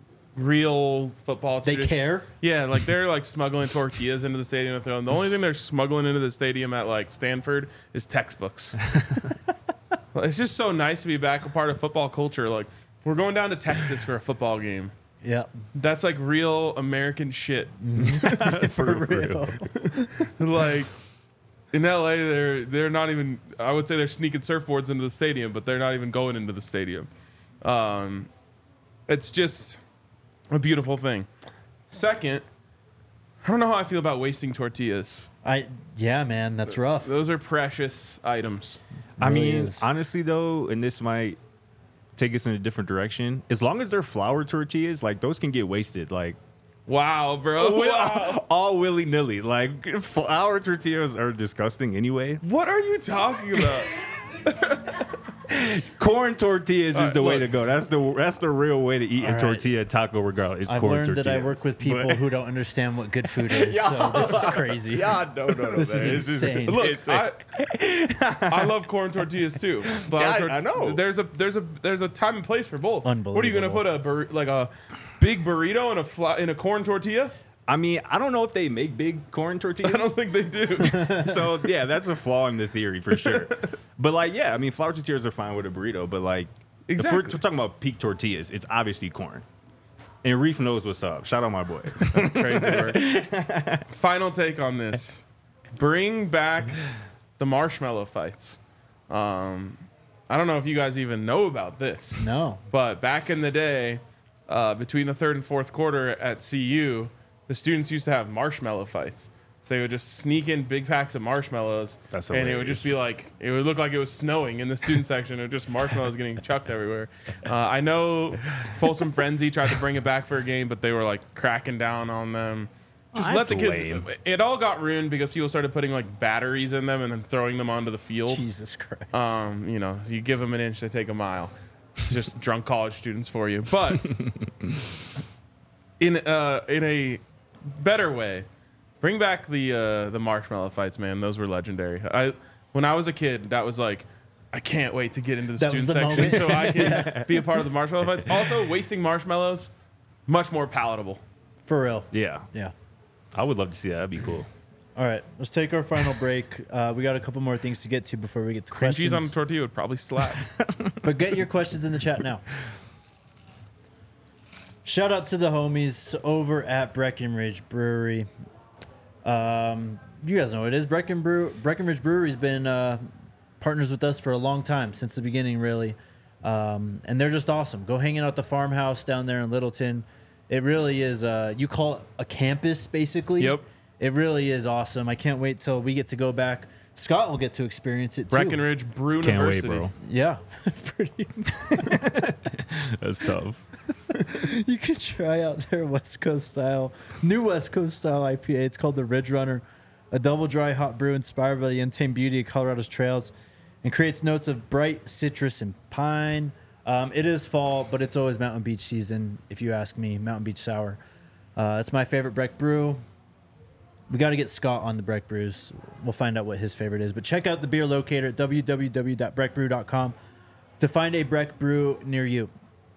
real football. They tradition- care? Yeah, like they're like smuggling tortillas into the stadium to throw them. The only thing they're smuggling into the stadium at like Stanford is textbooks. Well, it's just so nice to be back a part of football culture. Like we're going down to Texas for a football game. Yeah. That's like real American shit. For real. Like in L A, they're they're not even. I would say they're sneaking surfboards into the stadium, but they're not even going into the stadium. Um, it's just a beautiful thing. Second, I don't know how I feel about wasting tortillas. I yeah, man, that's rough. Those are precious items. I Really mean, is. honestly though, and this might take us in a different direction. As long as they're flour tortillas, like those can get wasted. Like Wow, bro. Wow. all willy nilly. Like flour tortillas are disgusting anyway. What are you talking about? Corn tortillas All is right, the way look. to go. That's the that's the real way to eat All a right. tortilla taco regardless. It's I've corn learned tortillas. that I work with people But- who don't understand what good food is. So this is crazy. Yeah, no, no, no. This man. is It's just- insane. Look, it's- I, I love corn tortillas too. Flour Yeah, I- tor- I know. There's a there's a there's a time and place for both. What are you gonna Unbelievable. put a bur- like a big burrito in a fla- in a corn tortilla? I mean, I don't know if they make big corn tortillas. I don't think they do. So yeah, that's a flaw in the theory for sure. But like, yeah, I mean, flour tortillas are fine with a burrito, but like, Exactly. if we're talking about peak tortillas, it's obviously corn. And Reef knows what's up. Shout out my boy. Crazy word. Final take on this: bring back the marshmallow fights. Um, I don't know if you guys even know about this. No. But back in the day, uh, between the third and fourth quarter at C U, the students used to have marshmallow fights. So they would just sneak in big packs of marshmallows, That's and it would just be like, it would look like it was snowing in the student section. It would just marshmallows getting chucked everywhere. Uh, I know Folsom Frenzy tried to bring it back for a game, but they were like cracking down on them. Just Oh, let the that's kids. lame. It all got ruined because people started putting like batteries in them and then throwing them onto the field. Jesus Christ. Um, you know, you give them an inch, they take a mile. It's just drunk college students for you. But in uh, in a better way, bring back the uh, the marshmallow fights, man. Those were legendary. I when I was a kid, that was like, I can't wait to get into the That was student the section moment. so I can be a part of the marshmallow fights. Also, wasting marshmallows, much more palatable. For real. Yeah, Yeah. I would love to see that. That'd be cool. All right, let's take our final break. Uh, we got a couple more things to get to before we get to Cream cheese questions. on a tortilla would probably slap. But get your questions in the chat now. Shout out to the homies over at Breckenridge Brewery. Um, you guys know what it is. Brecken Brew- Breckenridge Brewery's been uh, partners with us for a long time, since the beginning, really. Um, and they're just awesome. Go hanging out at the farmhouse down there in Littleton. It really is, uh, you call it a campus, basically. Yep. It really is awesome. I can't wait till we get to go back. Scott will get to experience it, too. Breckenridge Brew Can't wait, University. bro. Yeah. Pretty That's tough. You can try out their West Coast style, new West Coast style I P A. It's called the Ridge Runner, a double dry hot brew inspired by the untamed beauty of Colorado's trails and creates notes of bright citrus and pine. Um, it is fall, but it's always Mountain Beach season, if you ask me. Mountain Beach Sour. Uh, it's my favorite Breck brew. We got to get Scott on the Breck brews. We'll find out what his favorite is. But check out the beer locator at w w w dot breck brew dot com to find a Breck brew near you.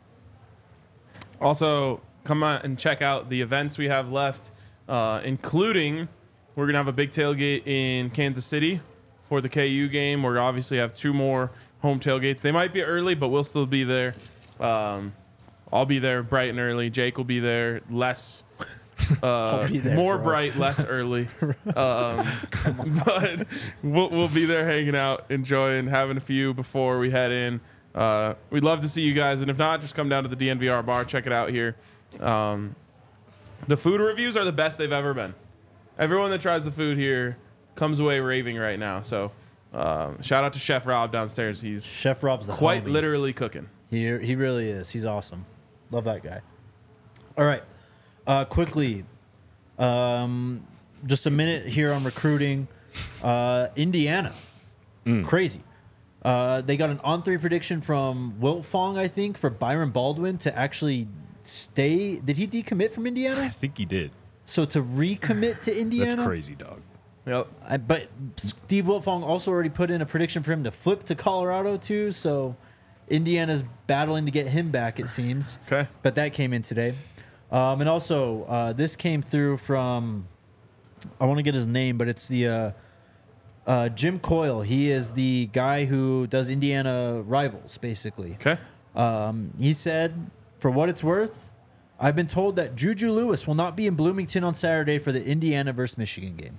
Also, come out and check out the events we have left, uh, including we're going to have a big tailgate in Kansas City for the K U game. We're obviously have two more home tailgates. They might be early, but we'll still be there. Um, I'll be there bright and early. Jake will be there less, uh, be there, more bro. bright, less early. Um, but we'll, we'll be there hanging out, enjoying, having a few before we head in. Uh, we'd love to see you guys, and if not, just come down to the D N V R bar, check it out here. Um, the food reviews are the best they've ever been. Everyone that tries the food here comes away raving right now. So uh, shout out to Chef Rob downstairs. He's Chef Rob's the quite homie. literally cooking. He he really is. He's awesome. Love that guy. All right, uh, quickly, um, just a minute here on recruiting. Uh, Indiana, crazy. Uh, they got an on three prediction from Wilt Fong, I think, for Byron Baldwin to actually stay. Did he decommit from I Indiana? think he did. So to recommit to Indiana? That's crazy, dog. Yep. I, but Steve Wiltfong also already put in a prediction for him to flip to Colorado too. So Indiana's battling to get him back, it seems. Okay. But that came in today. Um, and also, uh, this came through from, I want to get his name, but it's the uh, uh, Jim Coyle. He is the guy who does Indiana Rivals, basically. Okay. Um, he said, for what it's worth, I've been told that Juju Lewis will not be in Bloomington on Saturday for the Indiana versus Michigan game.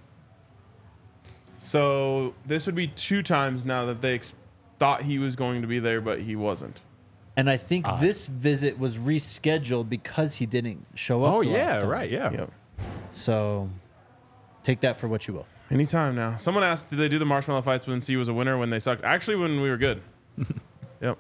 So this would be two times now that they ex- thought he was going to be there, but he wasn't. And I think this visit was rescheduled because he didn't show up. Oh the last yeah, time. right, yeah. Yep. So take that for what you will. Anytime now. Someone asked, did they do the marshmallow fights when C was a winner when they sucked? Actually, when we were good. Yep.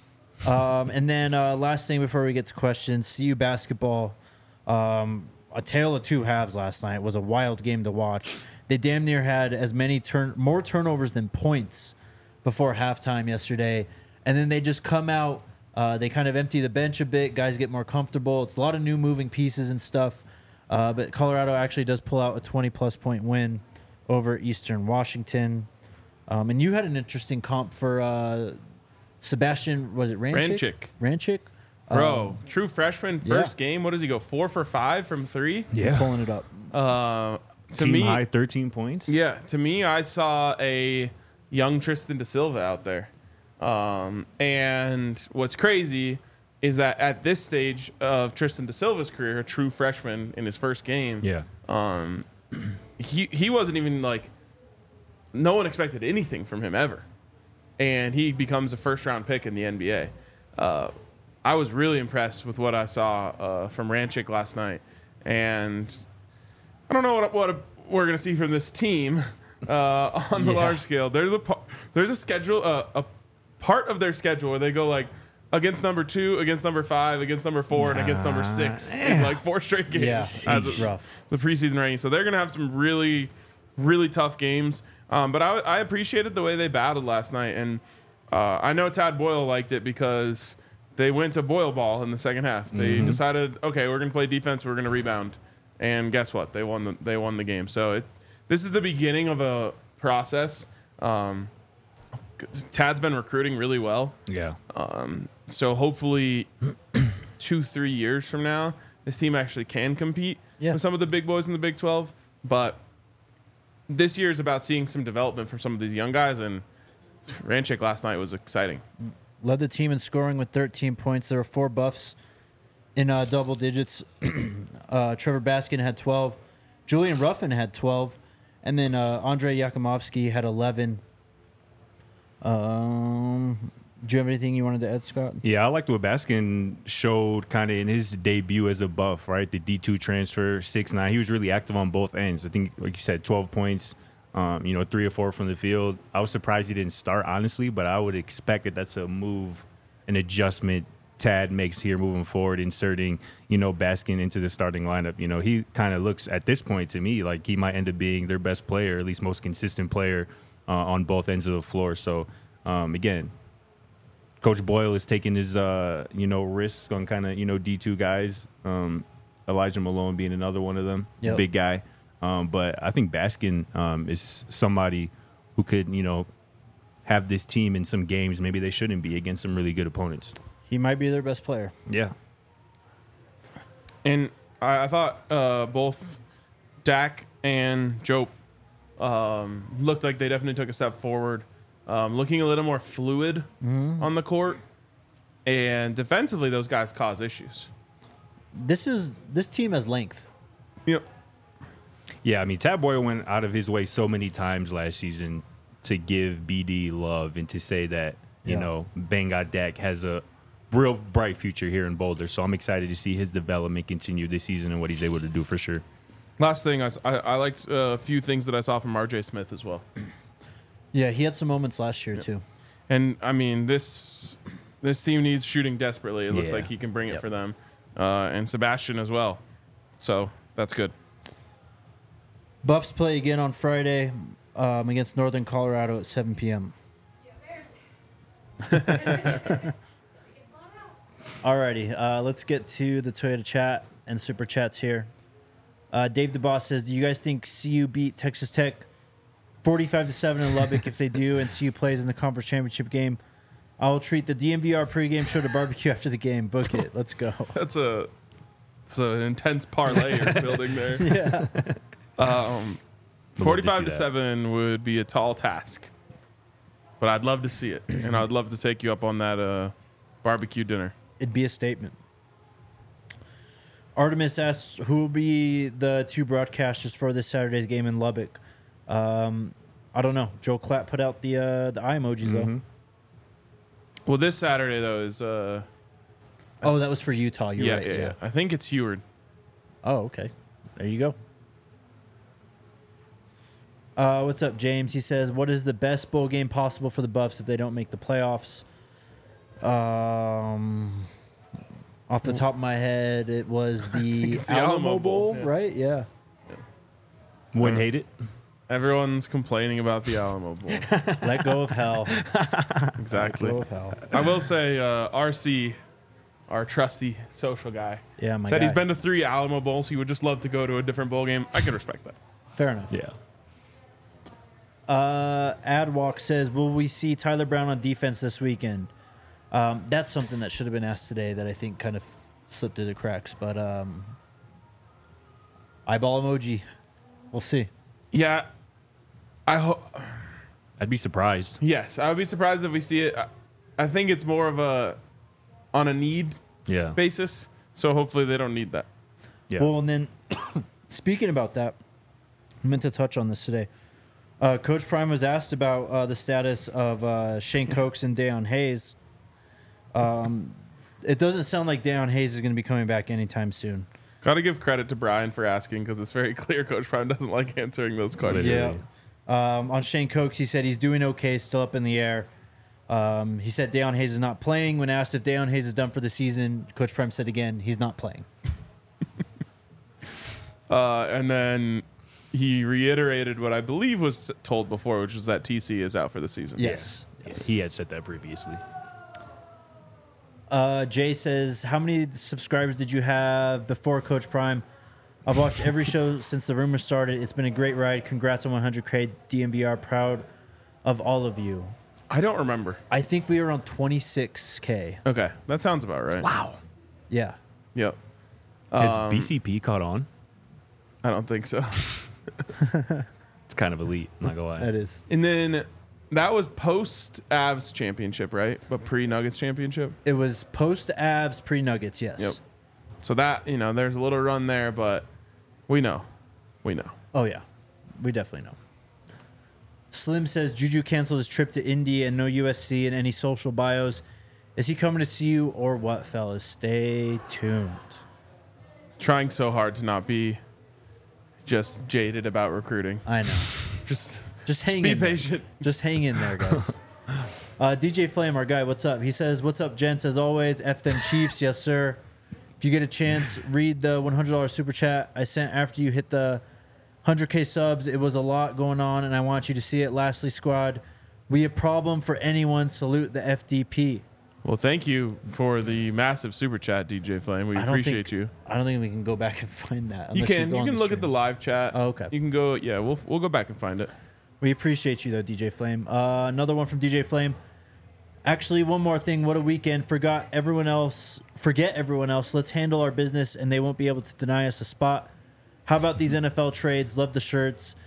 Um, and then uh, last thing before we get to questions, C U basketball. Um, a tale of two halves last night. It was a wild game to watch. They damn near had as many turn more turnovers than points before halftime yesterday, and then they just come out. Uh, they kind of empty the bench a bit. Guys get more comfortable. It's a lot of new moving pieces and stuff. Uh, but Colorado actually does pull out a twenty-plus point win over Eastern Washington. Um, and you had an interesting comp for uh, Sebastian, was it Ranchik? Ranchik. Ranchik? Bro, Um, true freshman, yeah. first game. What does he go? Four for five from three? Yeah. Pulling it up. Uh, to Team me, high thirteen points. yeah, to me, I saw a young Tristan Da Silva out there. Um, and what's crazy is that at this stage of Tristan Da Silva's career, a true freshman in his first game, Yeah. um, he he wasn't even like, no one expected anything from him ever, and he becomes a first round pick in the N B A. Uh, I was really impressed with what I saw uh, from Ranchik last night, and I don't know what what we're gonna see from this team uh, on the Yeah. large scale. There's a pa- there's a schedule uh, a part of their schedule where they go like against number two, against number five, against number four, and against number six in like four straight games. Yeah, as it's a- rough. the preseason ranking. So they're going to have some really, really tough games. Um, but I, I appreciated the way they battled last night. And uh, I know Tad Boyle liked it because they went to Boyle ball in the second half. They decided, okay, we're going to play defense. We're going to rebound. And guess what? They won the, they won the game. So it, this is the beginning of a process. Um, Tad's been recruiting really well. Yeah. Um, so hopefully two, three years from now, this team actually can compete Yeah. with some of the big boys in the Big twelve. But this year is about seeing some development from some of these young guys, and Ranchik last night was exciting. Led the team in scoring with thirteen points. There were four buffs in uh, double digits. uh, Trevor Baskin had twelve. Julian Ruffin had twelve. And then uh, Andrei Yakumovsky had eleven. Um, do you have anything you wanted to add, Scott? Yeah, I liked what Baskin showed kind of in his debut as a buff, right? The D two transfer, six nine. He was really active on both ends. I think, like you said, twelve points, um, you know, three or four from the field. I was surprised he didn't start, honestly, but I would expect that that's a move, an adjustment Tad makes here moving forward, inserting, you know, Baskin into the starting lineup. You know, he kind of looks at this point to me like he might end up being their best player, at least most consistent player uh, on both ends of the floor. So, um, again, Coach Boyle is taking his, uh, you know, risks on kind of, you know, D two guys. Um, Elijah Malone being another one of them, Yep. big guy. Um, but I think Baskin um, is somebody who could, you know, have this team in some games maybe they shouldn't be against some really good opponents. He might be their best player. Yeah. And I, I thought uh, both Dak and Jope um, looked like they definitely took a step forward, um, looking a little more fluid on the court. And defensively, those guys cause issues. This is this team has length. Yep. Yeah, I mean, Tad Boyle went out of his way so many times last season to give B D love and to say that, you Yeah. know, Bangadek has a real bright future here in Boulder. So I'm excited to see his development continue this season and what he's able to do for sure. Last thing, I, s- I- I liked uh, a few things that I saw from R J Smith as well. Yeah, he had some moments last year too. And, I mean, this this team needs shooting desperately. It looks Yeah. like he can bring it Yep. for them. Uh, and Sebastian as well. So that's good. Buffs play again on Friday um, against Northern Colorado at seven p.m. Alrighty, uh, let's get to the Toyota chat and super chats here. Uh, Dave DeBoss says, "Do you guys think C U beat Texas Tech forty-five to seven in Lubbock? If they do, and C U plays in the conference championship game, I will treat the D M V R pregame show to barbecue after the game. Book it. Let's go." That's a it's an intense parlay you're building there. Yeah. Um, see forty-five to that. seven would be a tall task, but I'd love to see it, and I'd love to take you up on that uh, barbecue dinner. It'd be a statement. Artemis asks, who will be the two broadcasters for this Saturday's game in Lubbock? Um, I don't know. Joe Clapp put out the uh, the eye emojis, though. Well, this Saturday though is uh, Oh, that was for Utah. You're yeah, right. yeah, yeah. I think it's Heward. Oh, okay. There you go. Uh, what's up, James? He says, what is the best bowl game possible for the Buffs if they don't make the playoffs? Um, off the top of my head, it was the it's the Alamo, Alamo Bowl, Bowl, yeah. right? Yeah. Wouldn't hate it. Everyone's complaining about the Alamo Bowl. Let go of hell. Exactly. Let go of hell. I will say, uh, R C, our trusty social guy, Yeah, my said he's guy. been to three Alamo Bowls. He would just love to go to a different bowl game. I can respect that. Fair enough. Yeah. Uh, Adwalk says, will we see Tyler Brown on defense this weekend? Um, that's something that should have been asked today that I think kind of slipped through the cracks. But um, eyeball emoji. We'll see. Yeah, I hope. I'd be surprised. Yes, I would be surprised if we see it. I, I think it's more of a on a need Yeah. basis. So hopefully they don't need that. Yeah. Well, and then speaking about that, I meant to touch on this today. Uh, Coach Prime was asked about uh, the status of uh, Shane Cokes and Deion Hayes. Um, it doesn't sound like Deion Hayes is going to be coming back anytime soon. Got to give credit to Brian for asking because it's very clear Coach Prime doesn't like answering those questions. Literally. Yeah. Um, on Shane Cokes, he said he's doing okay, still up in the air. Um, he said Deion Hayes is not playing. When asked if Deion Hayes is done for the season, Coach Prime said again, he's not playing. Uh, and then he reiterated what I believe was told before, which was that T C is out for the season. Yes. Yeah, he had said that previously. Uh, Jay says, how many subscribers did you have before Coach Prime? I've watched every show since the rumor started. It's been a great ride. Congrats on one hundred K D M V R. Proud of all of you. I don't remember. I think we were on twenty-six K. Okay, that sounds about right. Wow. Yeah. Yep. Has Um, B C P caught on? I don't think so. It's kind of elite. I'm not gonna lie. That is. And then that was post Avs championship, right? But pre Nuggets championship. It was post Avs, pre Nuggets, yes. Yep. So that, you know, there's a little run there, but we know. We know. Oh, yeah. We definitely know. Slim says Juju canceled his trip to Indy and no U S C in any social bios. Is he coming to see you or what, fellas? Stay tuned. Trying so hard to not be just jaded about recruiting. I know. Just, Just hang be in there. patient. Just hang in there, guys. uh, D J Flame, our guy, what's up? He says, what's up, gents? As always, F them Chiefs. Yes, sir. If you get a chance, read the one hundred dollars super chat I sent after you hit the one hundred K subs. It was a lot going on, and I want you to see it. Lastly, squad, we a problem for anyone. Salute the F D P. Well, thank you for the massive super chat, D J Flame. We I don't appreciate think- you. I don't think we can go back and find that. You unless can go you on can the look at the stream. live chat. Oh, okay. You can go. Yeah, we'll we'll go back and find it. We appreciate you, though, D J Flame. Uh, another one from D J Flame. Actually, one more thing. What a weekend. Forgot everyone else. Forget everyone else. Let's handle our business, and they won't be able to deny us a spot. How about these N F L trades? Love the shirts.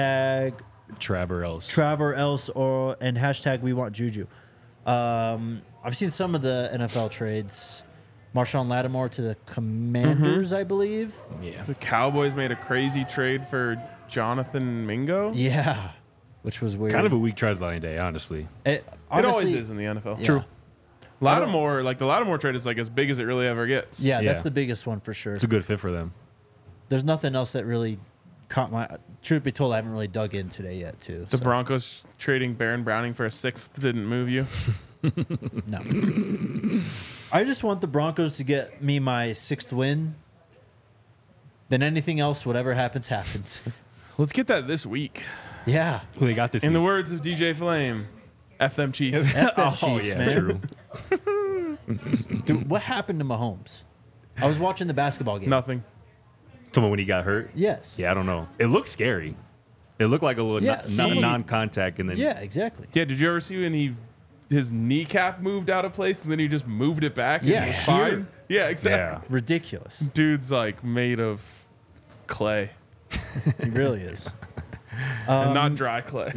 Hashtag Traver else. Traver else or and hashtag we want Juju. Um, I've seen some of the N F L trades. Marshawn Lattimore to the Commanders, I believe. Yeah. The Cowboys made a crazy trade for Jonathan Mingo. Yeah, which was weird. Kind of a weak trade line day, honestly. It, It honestly, always is in the N F L. yeah. True. Lattimore, like the Lattimore trade is like as big as it really ever gets. Yeah, that's Yeah. the biggest one for sure. It's a good fit for them. There's nothing else that really caught my. Truth be told, I haven't really dug in today yet, too. The so, Broncos trading Baron Browning for a sixth didn't move you. No. I just want the Broncos to get me my sixth win. Then anything else, whatever happens, happens. Let's get that this week. Yeah. Who they got this In the week? words of D J Flame, F them Chiefs. F them Oh, Chiefs, yeah, man. true. Dude, what happened to Mahomes? I was watching the basketball game. Nothing. Someone when he got hurt? Yes. Yeah, I don't know. It looked scary. It looked like a little Yeah, non- see- non-contact, and then Yeah, exactly. Yeah, did you ever see when he his kneecap moved out of place and then he just moved it back and Yeah, it was here. fine? Yeah, exactly. yeah. Ridiculous. Dude's like made of clay. He really is. and Um, not dry clay.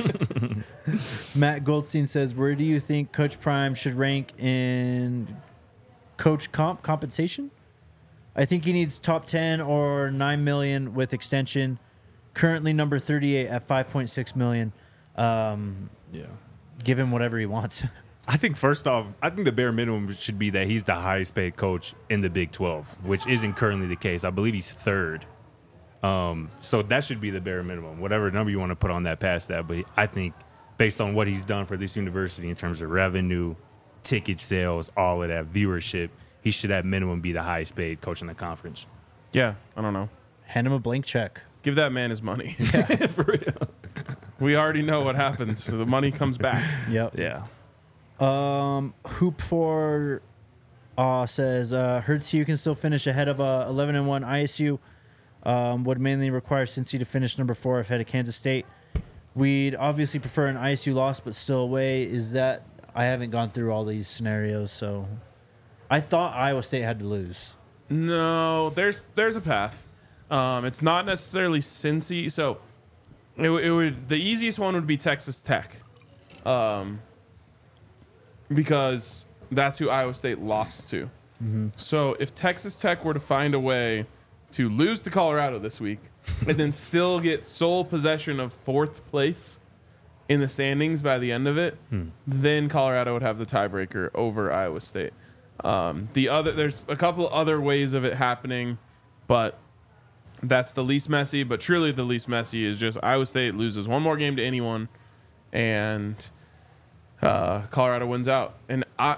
Matt Goldstein says, where do you think Coach Prime should rank in coach comp compensation? I think he needs top ten or nine million with extension. Currently number thirty-eight at five point six million. Um, Yeah. give him whatever he wants. I think first off, I think the bare minimum should be that he's the highest paid coach in the Big twelve, which isn't currently the case. I believe he's third. Um, so that should be the bare minimum, whatever number you want to put on that past that. But I think based on what he's done for this university in terms of revenue, ticket sales, all of that viewership, he should at minimum be the highest paid coach in the conference. Yeah, I don't know. Hand him a blank check. Give that man his money. For real. We already know what happens. So the money comes back. Yep. Yeah. Um, Hoop for uh, says uh, Hurts you can still finish ahead of uh, eleven and one I S U. Um, would mainly require Cincy to finish number four ahead of Kansas State. We'd obviously prefer an I S U loss, but still away. Is that I haven't gone through all these scenarios, so I thought Iowa State had to lose. No, there's there's a path. Um, it's not necessarily Cincy. So it, w- it would the easiest one would be Texas Tech, um, because that's who Iowa State lost to. So if Texas Tech were to find a way to lose to Colorado this week and then still get sole possession of fourth place in the standings by the end of it, then Colorado would have the tiebreaker over Iowa State. Um, the other, there's a couple other ways of it happening, but that's the least messy. But truly, the least messy is just Iowa State loses one more game to anyone, and uh, Colorado wins out. And I,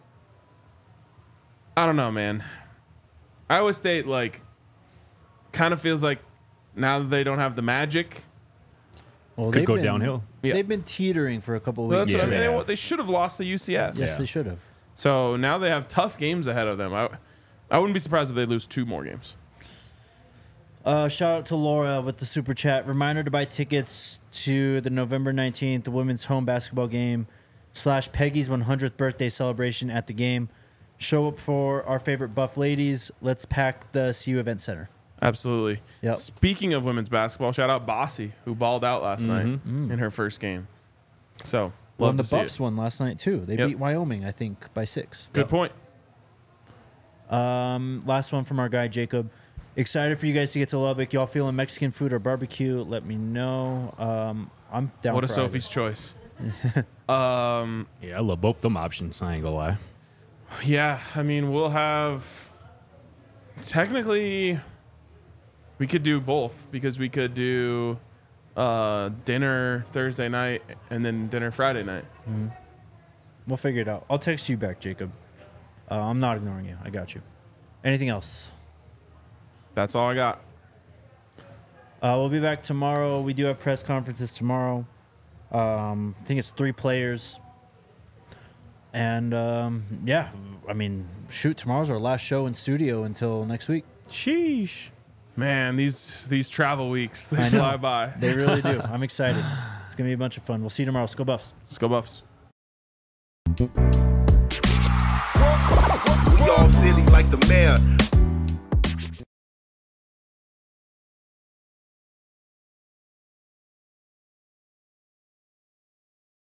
I don't know, man. Iowa State like kind of feels like now that they don't have the magic. Well, Could they've go been- downhill. Yeah. They've been teetering for a couple of Well, weeks. that's what I Yeah. mean. They, they should have lost to U C F. Yes, Yeah. they should have. So now they have tough games ahead of them. I, I wouldn't be surprised if they lose two more games. Uh, shout out to Laura with the super chat. Reminder to buy tickets to the November nineteenth women's home basketball game slash Peggy's one hundredth birthday celebration at the game. Show up for our favorite Buff ladies. Let's pack the C U Event Center. Absolutely. Yep. Speaking of women's basketball, shout out Bossy, who balled out last night in her first game. So, Well, love and to the see Buffs it. won last night too. They Yep. beat Wyoming, I think, by six. Good point. Um, last one from our guy Jacob. Excited for you guys to get to Lubbock. Y'all feeling Mexican food or barbecue? Let me know. Um, I'm down. What a for Sophie's choice. um, Yeah, I love both them options. I ain't gonna lie. yeah, I mean, we'll have technically we could do both because we could do uh, dinner Thursday night and then dinner Friday night. either. We'll figure it out. I'll text you back, Jacob. Uh, I'm not ignoring you. I got you. Anything else? That's all I got. Uh, we'll be back tomorrow. We do have press conferences tomorrow. Um, I think it's three players. And um, yeah, I mean, shoot, tomorrow's our last show in studio until next week. Sheesh. Man, these these travel weeks they I know. fly by. They really do. I'm excited. It's going to be a bunch of fun. We'll see you tomorrow. Let's go Buffs. Let's go Buffs. We all silly like the mayor.